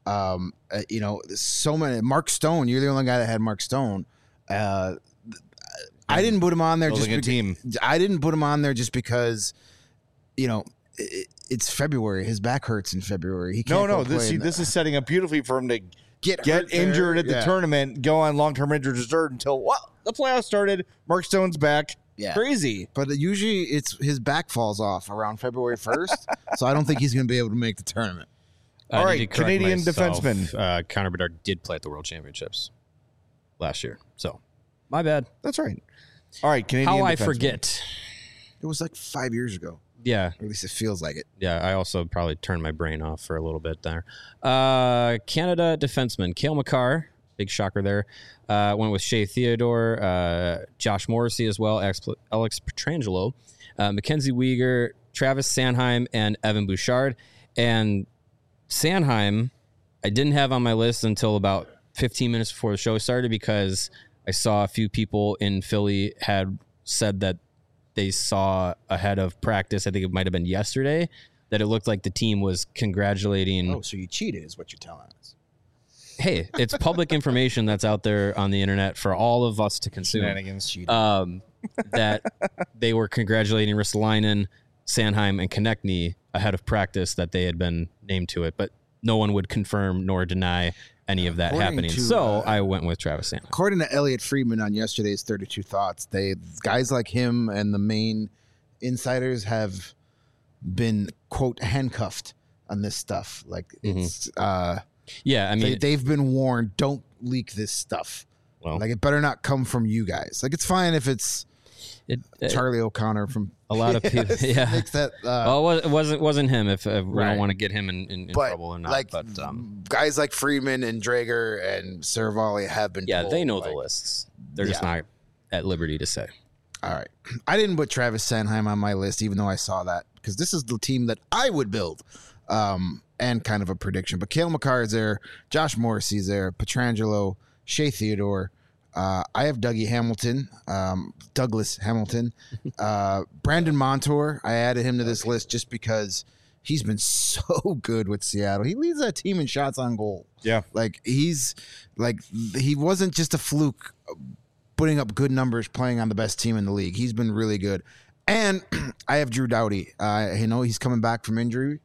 So many. Mark Stone, you're the only guy that had Mark Stone. I didn't put him on there I didn't put him on there just because, it's February. His back hurts in February. He can't this is setting up beautifully for him to get injured at the tournament, go on long-term injured reserve until the playoffs started. Mark Stone's back. Yeah. Crazy. But usually it's his back falls off around February 1st, so I don't think he's going to be able to make the tournament. All right, Canadian defenseman. Connor Bedard did play at the World Championships last year, so my bad. That's right. All right, Canadian defenseman. I forget. It was like 5 years ago. Yeah. Or at least it feels like it. Yeah, I also probably turned my brain off for a little bit there. Canada defenseman, Cale Makar, big shocker there. Went with Shea Theodore, Josh Morrissey as well, Alex Pietrangelo, Mackenzie Weegar, Travis Sanheim, and Evan Bouchard. And Sanheim, I didn't have on my list until about 15 minutes before the show started because I saw a few people in Philly had said that they saw ahead of practice, I think it might have been yesterday, that it looked like the team was congratulating. Oh, so you cheated is what you're telling us. Hey, it's public information that's out there on the internet for all of us to consume. Shenanigans. That they were congratulating Ristolainen, Sanheim, and Konechny ahead of practice that they had been named to it, but no one would confirm nor deny any of that happening. So I went with Travis Sanheim. According to Elliot Friedman on yesterday's 32 Thoughts, guys like him and the main insiders have been, quote, handcuffed on this stuff. Like, it's they've been warned, don't leak this stuff. Well, like, it better not come from you guys. Like, it's fine if it's Charlie O'Connor from a lot of people. Makes that, it wasn't him. If we don't want to get him in trouble or not. Like, but guys like Freeman and Drager and Saravalli have been. Yeah, told, they know the lists. They're just not at liberty to say. All right, I didn't put Travis Sanheim on my list, even though I saw that, because this is the team that I would build. And kind of a prediction, but Cale Makar is there, Josh Morrissey's there, Pietrangelo, Shea Theodore. I have Douglas Hamilton, Brandon Montour. I added him to this list just because he's been so good with Seattle. He leads that team in shots on goal. Yeah, he wasn't just a fluke putting up good numbers playing on the best team in the league. He's been really good. And I have Drew Doughty. He's coming back from injury.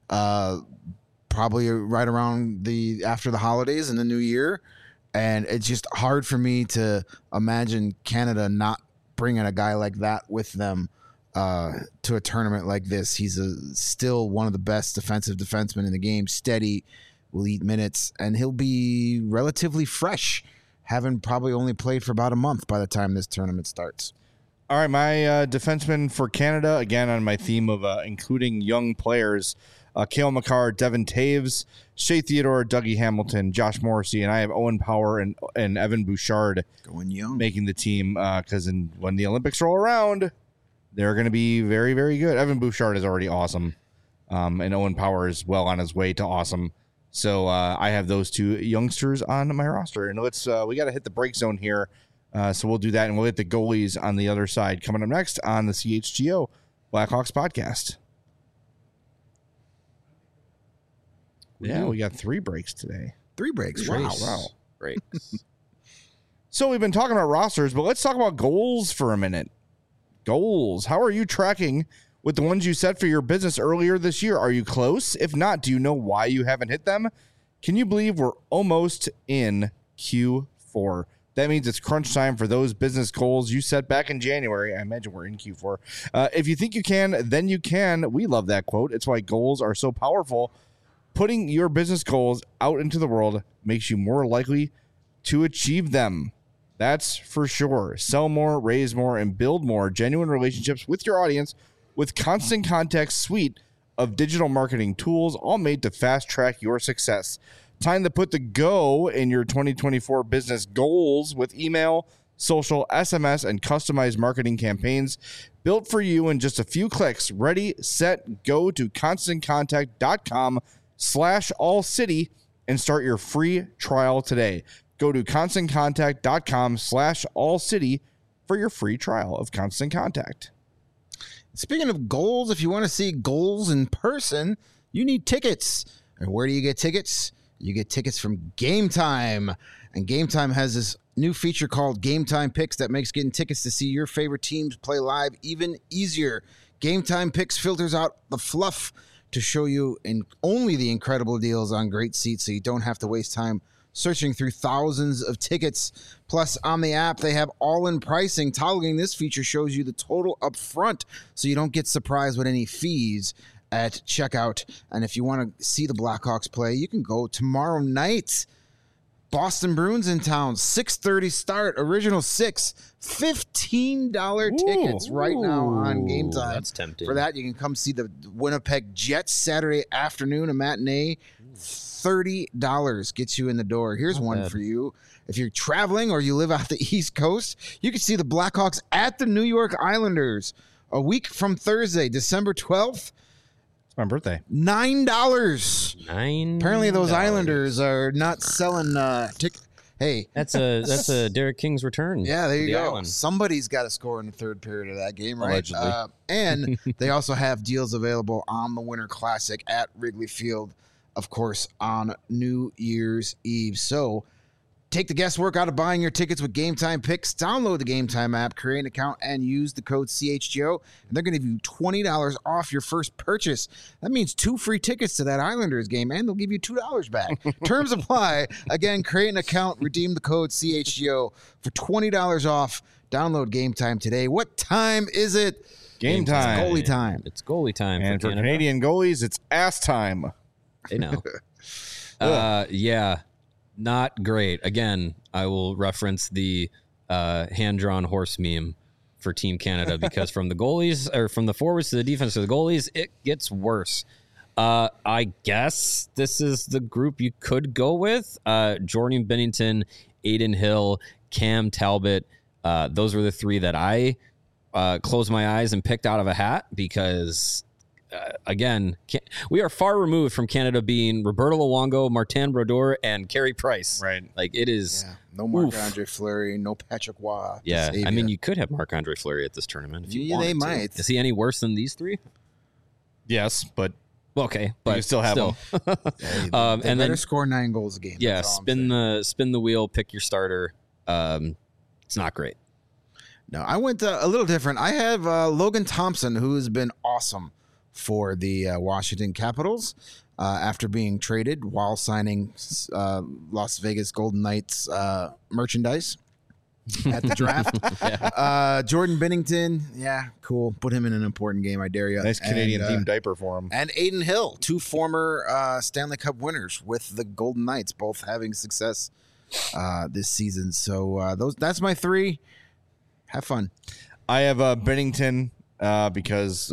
Probably right around after the holidays and the new year. And it's just hard for me to imagine Canada not bringing a guy like that with them to a tournament like this. He's still one of the best defensive defensemen in the game, steady, will eat minutes, and he'll be relatively fresh, having probably only played for about a month by the time this tournament starts. All right, my defenseman for Canada, again on my theme of including young players, Cale Makar, Devin Taves, Shea Theodore, Dougie Hamilton, Josh Morrissey, and I have Owen Power and Evan Bouchard going young, making the team because when the Olympics roll around, they're going to be very, very good. Evan Bouchard is already awesome, and Owen Power is well on his way to awesome. So I have those two youngsters on my roster, and we got to hit the break zone here. So we'll do that, and we'll hit the goalies on the other side coming up next on the CHGO Blackhawks podcast. Yeah, we got 3 breaks today. 3 breaks. Wow. Breaks. So we've been talking about rosters, but let's talk about goals for a minute. Goals. How are you tracking with the ones you set for your business earlier this year? Are you close? If not, do you know why you haven't hit them? Can you believe we're almost in Q4? That means it's crunch time for those business goals you set back in January. I imagine we're in Q4. If you think you can, then you can. We love that quote. It's why goals are so powerful. Putting your business goals out into the world makes you more likely to achieve them. That's for sure. Sell more, raise more, and build more genuine relationships with your audience with Constant Contact's suite of digital marketing tools, all made to fast track your success. Time to put the go in your 2024 business goals with email, social, SMS, and customized marketing campaigns built for you in just a few clicks. Ready, set, go to ConstantContact.com/allcity and start your free trial today. Go to ConstantContact.com/allcity for your free trial of Constant Contact. Speaking of goals, if you want to see goals in person, you need tickets. And where do you get tickets? You get tickets from Game Time. And Game Time has this new feature called Game Time Picks that makes getting tickets to see your favorite teams play live even easier. Game Time Picks filters out the fluff to show you only the incredible deals on great seats so you don't have to waste time searching through thousands of tickets. Plus, on the app, they have all-in pricing. Toggling this feature shows you the total up front so you don't get surprised with any fees at checkout. And if you want to see the Blackhawks play, you can go tomorrow night. Boston Bruins in town, 6:30 start, original 6, $15 tickets right now on Game Time. That's tempting. For that, you can come see the Winnipeg Jets Saturday afternoon, a matinee. $30 gets you in the door. Here's one for you. If you're traveling or you live out the East Coast, you can see the Blackhawks at the New York Islanders a week from Thursday, December 12th. It's my birthday. $9. Apparently those Islanders are not selling tickets. Hey, that's a Derek King's return. Yeah, there you go. Island. Somebody's got to score in the third period of that game, right? Allegedly. And they also have deals available on the Winter Classic at Wrigley Field, of course, on New Year's Eve. So take the guesswork out of buying your tickets with Game Time Picks. Download the Game Time app, create an account, and use the code CHGO. And they're going to give you $20 off your first purchase. That means 2 free tickets to that Islanders game, and they'll give you $2 back. Terms apply. Again, create an account, redeem the code CHGO for $20 off. Download Game Time today. What time is it? Game time. It's goalie time. It's goalie time. And for Canada. Canadian goalies, it's ass time. They know. Yeah, not great. Again, I will reference the hand-drawn horse meme for Team Canada because from the goalies or from the forwards to the defense to the goalies, it gets worse. I guess this is the group you could go with. Jordan Binnington, Aiden Hill, Cam Talbot. Those were the 3 that I closed my eyes and picked out of a hat because again, we are far removed from Canada being Roberto Luongo, Martin Brodeur, and Carey Price. Right. Like it is. Yeah. No Marc-Andre Fleury, no Patrick Waugh. Yeah. I mean, you could have Marc-Andre Fleury at this tournament if you wanted they to. might. Is he any worse than these 3? Yes, but Okay, but you still have them. They and better then score 9 goals a game. yeah, That's all I'm saying. spin the wheel, pick your starter. It's not great. No, I went a little different. I have Logan Thompson, who has been awesome for the Washington Capitals after being traded while signing Las Vegas Golden Knights merchandise at the draft. Jordan Binnington, yeah, cool. Put him in an important game, I dare you. Nice Canadian themed diaper for him. And Aiden Hill, 2 former Stanley Cup winners with the Golden Knights, both having success this season. So that's my 3. Have fun. I have Bennington because,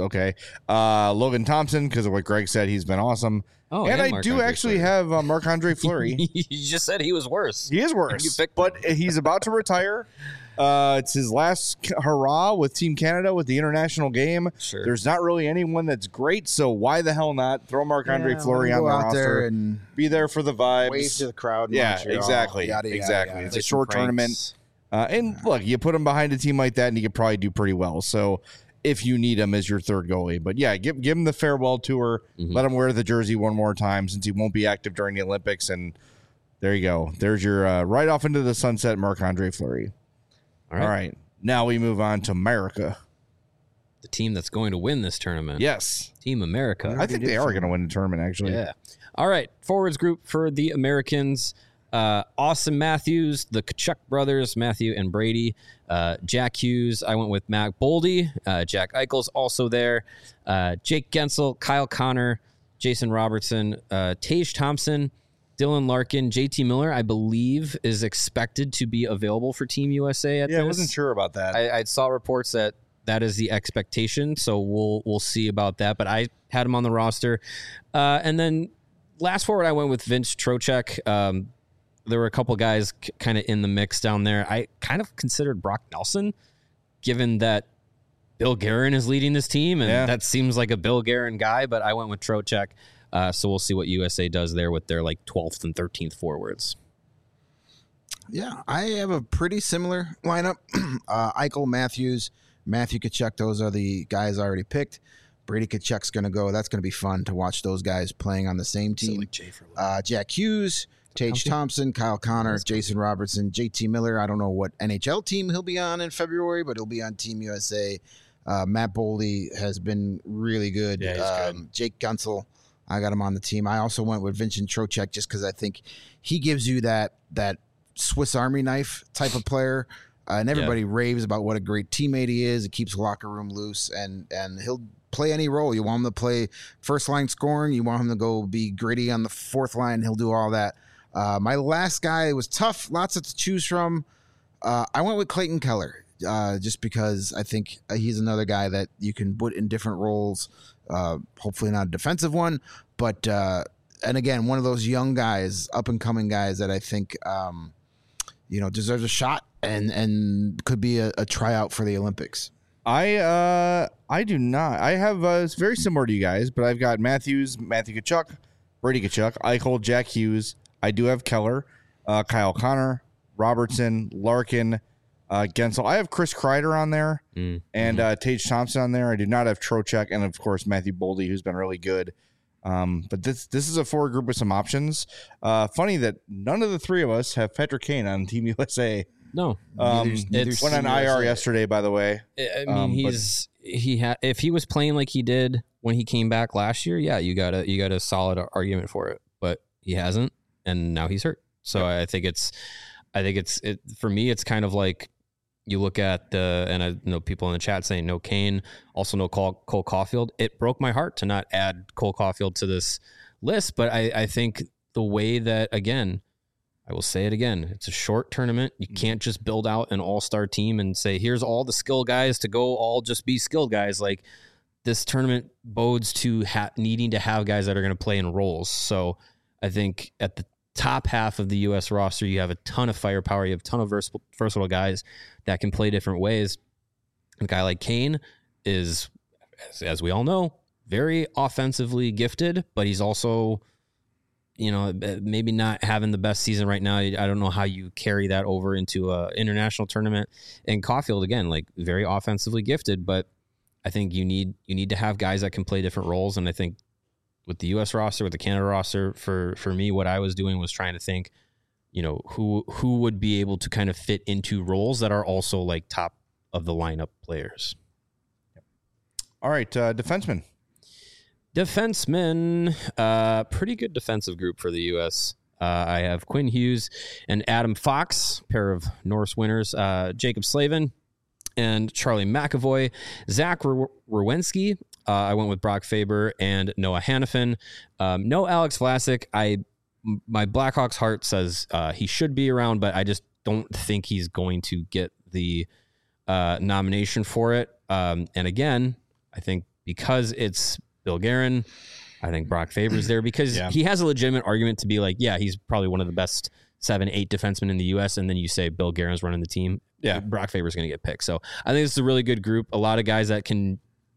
Logan Thompson because of what Greg said. He's been awesome. Oh, and I Marc-Andre do actually Fleury. have Marc-Andre Fleury. You just said he was worse. He is worse, You picked but he's about to retire. It's his last hurrah with Team Canada with the international game. Sure. There's not really anyone that's great, so why the hell not throw Marc-Andre Fleury on the out roster? there and Be there for the vibes. wave to the crowd. in Yeah, Montreal, exactly. yada, yada, Exactly. yada. It's a short tournament. And look, you put him behind a team like that, and he could probably do pretty well. So if you need him as your third goalie. But yeah, give him the farewell tour. Mm-hmm. Let him wear the jersey one more time since he won't be active during the Olympics. And there you go. There's your right off into the sunset, Marc-Andre Fleury. All right. Now we move on to America. The team that's going to win this tournament. Yes. Team America. I think they are going to win the tournament, actually. Yeah. All right. Forwards group for the Americans. Austin Matthews, the Kachuk brothers, Matthew and Brady, Jack Hughes. I went with Matt Boldy. Jack Eichel's also there. Jake Gensel, Kyle Connor, Jason Robertson, Tage Thompson, Dylan Larkin, JT Miller, I believe, is expected to be available for Team USA at this. I wasn't sure about that. I saw reports that is the expectation, so we'll see about that. But I had him on the roster. And then last forward, I went with Vince Trocheck. There were a couple guys kind of in the mix down there. I kind of considered Brock Nelson, given that Bill Guerin is leading this team, and that seems like a Bill Guerin guy, but I went with Trocheck. So we'll see what USA does there with their like 12th and 13th forwards. Yeah, I have a pretty similar lineup. Eichel, Matthews, Matthew Kachuk, those are the guys I already picked. Brady Kachuk's going to go. That's going to be fun to watch those guys playing on the same team. Jack Hughes, Tage Thompson, Kyle Connor, Jason Robertson, JT Miller. I don't know what NHL team he'll be on in February, but he'll be on Team USA. Matt Boldy has been really good. Yeah, he's good. Jake Gunsel, I got him on the team. I also went with Vincent Trocheck just because I think he gives you that Swiss Army knife type of player. And everybody raves about what a great teammate he is. It keeps the locker room loose, and he'll play any role. You want him to play first line scoring. You want him to go be gritty on the fourth line. He'll do all that. My last guy was tough. Lots to choose from. I went with Clayton Keller just because I think he's another guy that you can put in different roles. Hopefully not a defensive one, but and again, one of those young guys, up and coming guys that I think deserves a shot and could be a tryout for the Olympics. I do not. I have it's very similar to you guys, but I've got Matthew Kachuk, Brady Kachuk, Eichel, Jack Hughes. I do have Keller, Kyle Connor, Robertson, Larkin, Gensel. I have Chris Kreider on there and Tage Thompson on there. I do not have Trocheck and, of course, Matthew Boldy, who's been really good. But this is a forward group with some options. Funny that none of the three of us have Patrick Kane on Team USA. No, it went on IR yesterday, by the way. I mean, if he was playing like he did when he came back last year, yeah, you got a solid argument for it. But he hasn't, and now he's hurt. So I think it's for me, it's kind of like you look at and I know people in the chat saying no Kane, also no Cole Caulfield. It broke my heart to not add Cole Caulfield to this list, but I think the way that, again, I will say it again, it's a short tournament. You can't just build out an all-star team and say, here's all the skill guys to go all just be skilled guys. Like, this tournament bodes to needing to have guys that are going to play in roles. So I think at the top half of the U.S. roster, you have a ton of firepower. You have a ton of versatile guys that can play different ways. A guy like Kane is, as we all know, very offensively gifted, but he's also, maybe not having the best season right now. I don't know how you carry that over into a international tournament. And Caulfield, again, like, very offensively gifted, but I think you need to have guys that can play different roles. And I think with the U.S. roster, with the Canada roster, for me, what I was doing was trying to think, who would be able to kind of fit into roles that are also like top of the lineup players. All right, defenseman. Pretty good defensive group for the U.S. I have Quinn Hughes and Adam Fox, pair of Norris winners, Jacob Slavin and Charlie McAvoy, Zach Rowensky. I went with Brock Faber and Noah Hannafin. No Alex Vlasic. My Blackhawks heart says he should be around, but I just don't think he's going to get the nomination for it. And again, I think because it's Bill Guerin, I think Brock Faber's there because he has a legitimate argument to be like, yeah, he's probably one of the best 7-8 defensemen in the U.S. And then you say Bill Guerin's running the team. Yeah, Brock Faber's going to get picked. So I think this is a really good group. A lot of guys that can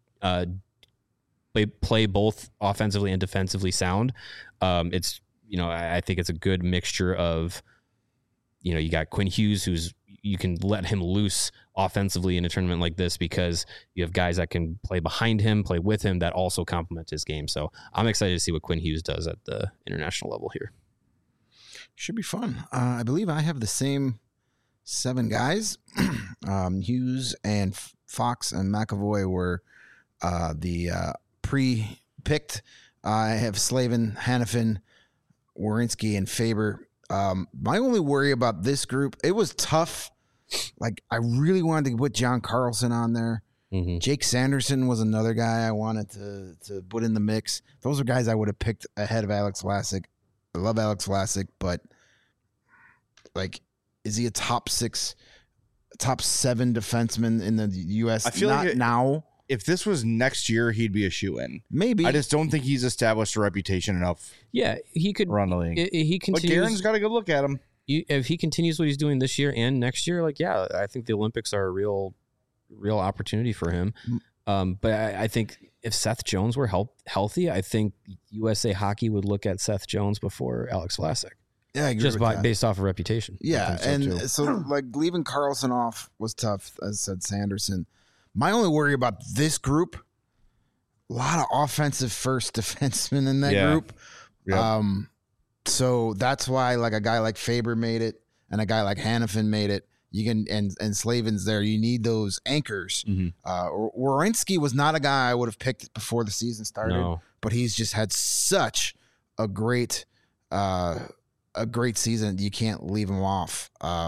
play both offensively and defensively sound. It's, I think it's a good mixture of, you got Quinn Hughes, you can let him loose offensively in a tournament like this because you have guys that can play behind him, play with him, that also complement his game. So I'm excited to see what Quinn Hughes does at the international level here. Should be fun. I believe I have the same 7 guys. Hughes and Fox and McAvoy were the pre-picked. I have Slavin, Hannafin, Werenski, and Faber. My only worry about this group, it was tough. Like, I really wanted to put John Carlson on there. Mm-hmm. Jake Sanderson was another guy I wanted to put in the mix. Those are guys I would have picked ahead of Alex Vlasic. I love Alex Vlasic, but like, is he a top 7 defenseman in the U.S.? I feel Not like now. If this was next year, he'd be a shoe-in. Maybe. I just don't think he's established a reputation enough Yeah, he could around the league. He But continues. Garen's got a good look at him. If he continues what he's doing this year and next year, like, yeah, I think the Olympics are a real opportunity for him. But I think if Seth Jones were healthy, I think USA Hockey would look at Seth Jones before Alex Vlasic, Yeah, I agree just with that. based off of reputation. Yeah, I think so, too. so like leaving Carlson off was tough, as said Sanderson. My only worry about this group, a lot of offensive first defensemen in that Yeah. group. Yep. So that's why like a guy like Faber made it and a guy like Hannafin made it. You can and Slavin's there. You need those anchors. Mhm. Werenski was not a guy I would have picked before the season started, No. but he's just had such a great season. You can't leave him off.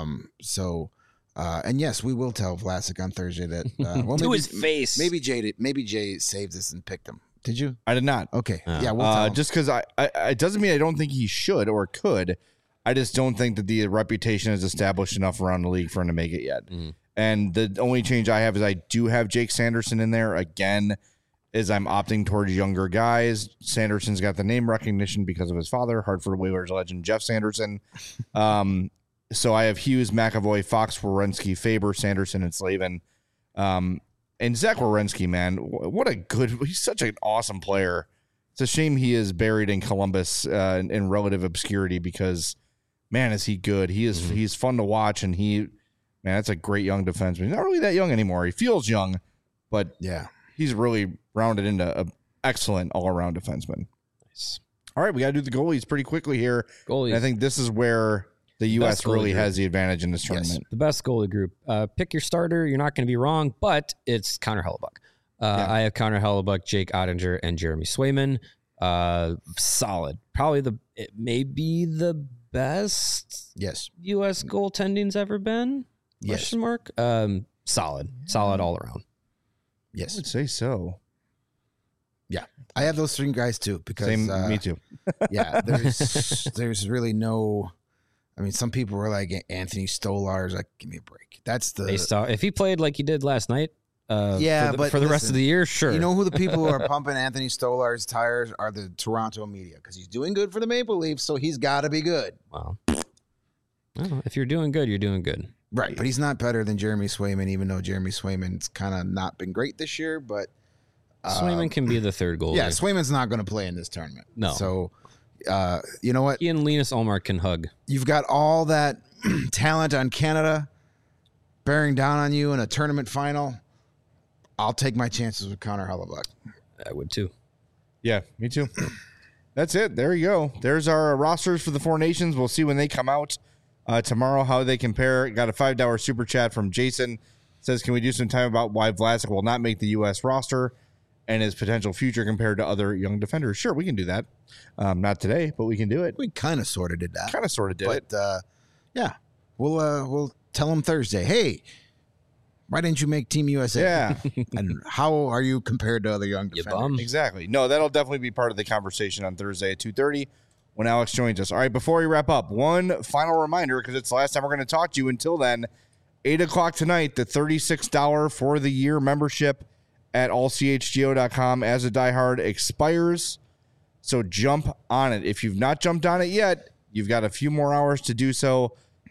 And yes, we will tell Vlasic on Thursday that To his face. Maybe Jay saved us and picked him. Did you? I did not. Okay. Oh. Yeah, we'll tell him. Just because it doesn't mean I don't think he should or could. I just don't think that the reputation is established enough around the league for him to make it yet. Mhm. And the only change I have is I do have Jake Sanderson in there again. Is I'm opting towards younger guys. Sanderson's got the name recognition because of his father, Hartford Whalers legend Jeff Sanderson. So I have Hughes, McAvoy, Fox, Werenski, Faber, Sanderson, and Slavin. And Zach Werenski, man, he's such an awesome player. It's a shame he is buried in Columbus in relative obscurity because, man, is he good. He's fun to watch, and that's a great young defenseman. He's not really that young anymore. He feels young, but Yeah. he's really rounded into an excellent all-around defenseman. Nice. All right, we got to do the goalies pretty quickly here. Goalies. And I think this is where the U.S. goalie really group. has the advantage in this tournament. The best goalie group. Pick your starter. You're not going to be wrong, but it's Connor Hellebuck. I have Connor Hellebuck, Jake Ottinger, and Jeremy Swayman. Solid. Probably it may be the best Yes. U.S. goaltending's ever been. Yes. Question mark. Solid all around. I Yes. would say so. Yeah. I have those three guys too because Same, me too. yeah, there's really no. I mean, some people were like Anthony Stolarz, like, give me a break. That's the Based off, if he played like he did last night, Yeah, but for the rest listen, of the year, sure. You know who the people who are pumping Anthony Stolar's tires are? The Toronto media, because he's doing good for the Maple Leafs, so he's got to be good. Wow. I don't know. If you're doing good, you're doing good. Right, but he's not better than Jeremy Swayman, even though Jeremy Swayman's kind of not been great this year. But Swayman can be the third goalie. yeah, Swayman's not going to play in this tournament. No. So, you know what? He and Linus Ullmark can hug. You've got all that talent on Canada bearing down on you in a tournament final. I'll take my chances with Connor Hellebuck. I would too. Yeah, me too. That's it. There you go. There's our rosters for the four nations. We'll see when they come out tomorrow how they compare. Got a $5 super chat from Jason. Says, can we do some time about why Vlasic will not make the U.S. roster and his potential future compared to other young defenders? Sure, we can do that. Not today, but we can do it. We kind of sort of did that. Kind of sort of did it. But yeah, we'll tell him Thursday. Hey, why didn't you make Team USA? Yeah, And how are you compared to other young You defenders? bum. exactly. No, that'll definitely be part of the conversation on Thursday at 2:30 when Alex joins us. All right, before we wrap up, one final reminder, because it's the last time we're going to talk to you. Until then, 8 o'clock tonight, the $36 for the year membership at allchgo.com as a diehard expires. So jump on it. If you've not jumped on it yet, you've got a few more hours to do so.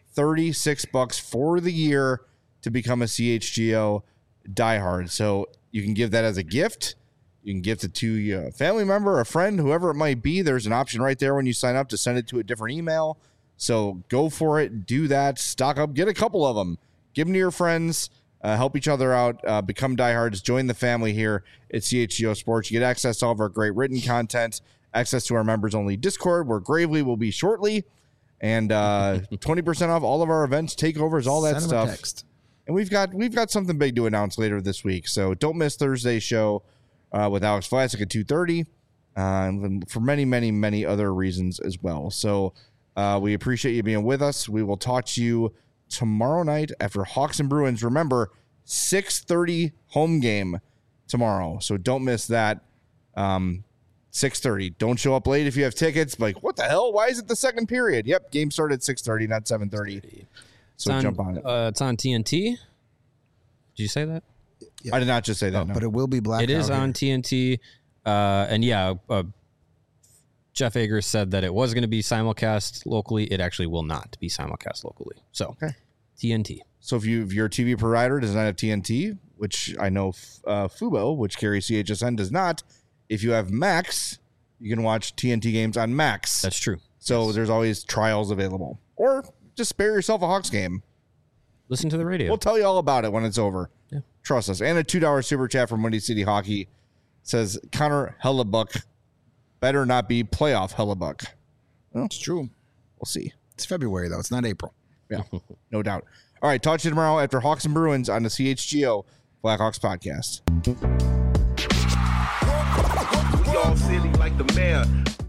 $36 for the year to become a CHGO diehard. So you can give that as a gift. You can gift it to a family member, a friend, whoever it might be. There's an option right there when you sign up to send it to a different email. So go for it. Do that. Stock up. Get a couple of them. Give them to your friends. Help each other out. Become diehards. Join the family here at CHGO Sports. You get access to all of our great written content, access to our members-only Discord, where Gravely will be shortly, and 20% off all of our events, takeovers, all that Send him a stuff. text. And we've got something big to announce later this week. So don't miss Thursday's show with Alex Vlasic at 2:30, and for many, many, many other reasons as well. So We appreciate you being with us. We will talk to you tomorrow night after Hawks and Bruins. Remember, 6:30 home game tomorrow, so don't miss that. 6:30. Don't show up late if you have tickets. Like, what the hell? Why is it the second period? Yep, game started at 6:30, not 7:30. So jump on it. It's on TNT. Did you say that? I did not just say that. No. But it will be black. It is on TNT. And Jeff Agers said that it was going to be simulcast locally. It actually will not be simulcast locally. So TNT. So if your TV provider does not have TNT, which I know Fubo, which carries CHSN, does not, if you have Max, you can watch TNT games on Max. That's true. So there's always trials available. Or just spare yourself a Hawks game. Listen to the radio. We'll tell you all about it when it's over. Yeah. Trust us. And a $2 super chat from Windy City Hockey says Connor Hellebuck better not be playoff Hellebuck. Well, It's true. we'll see. It's February, though. It's not April. Yeah, no doubt. All right, talk to you tomorrow after Hawks and Bruins on the CHGO Blackhawks podcast. We all silly like the mayor.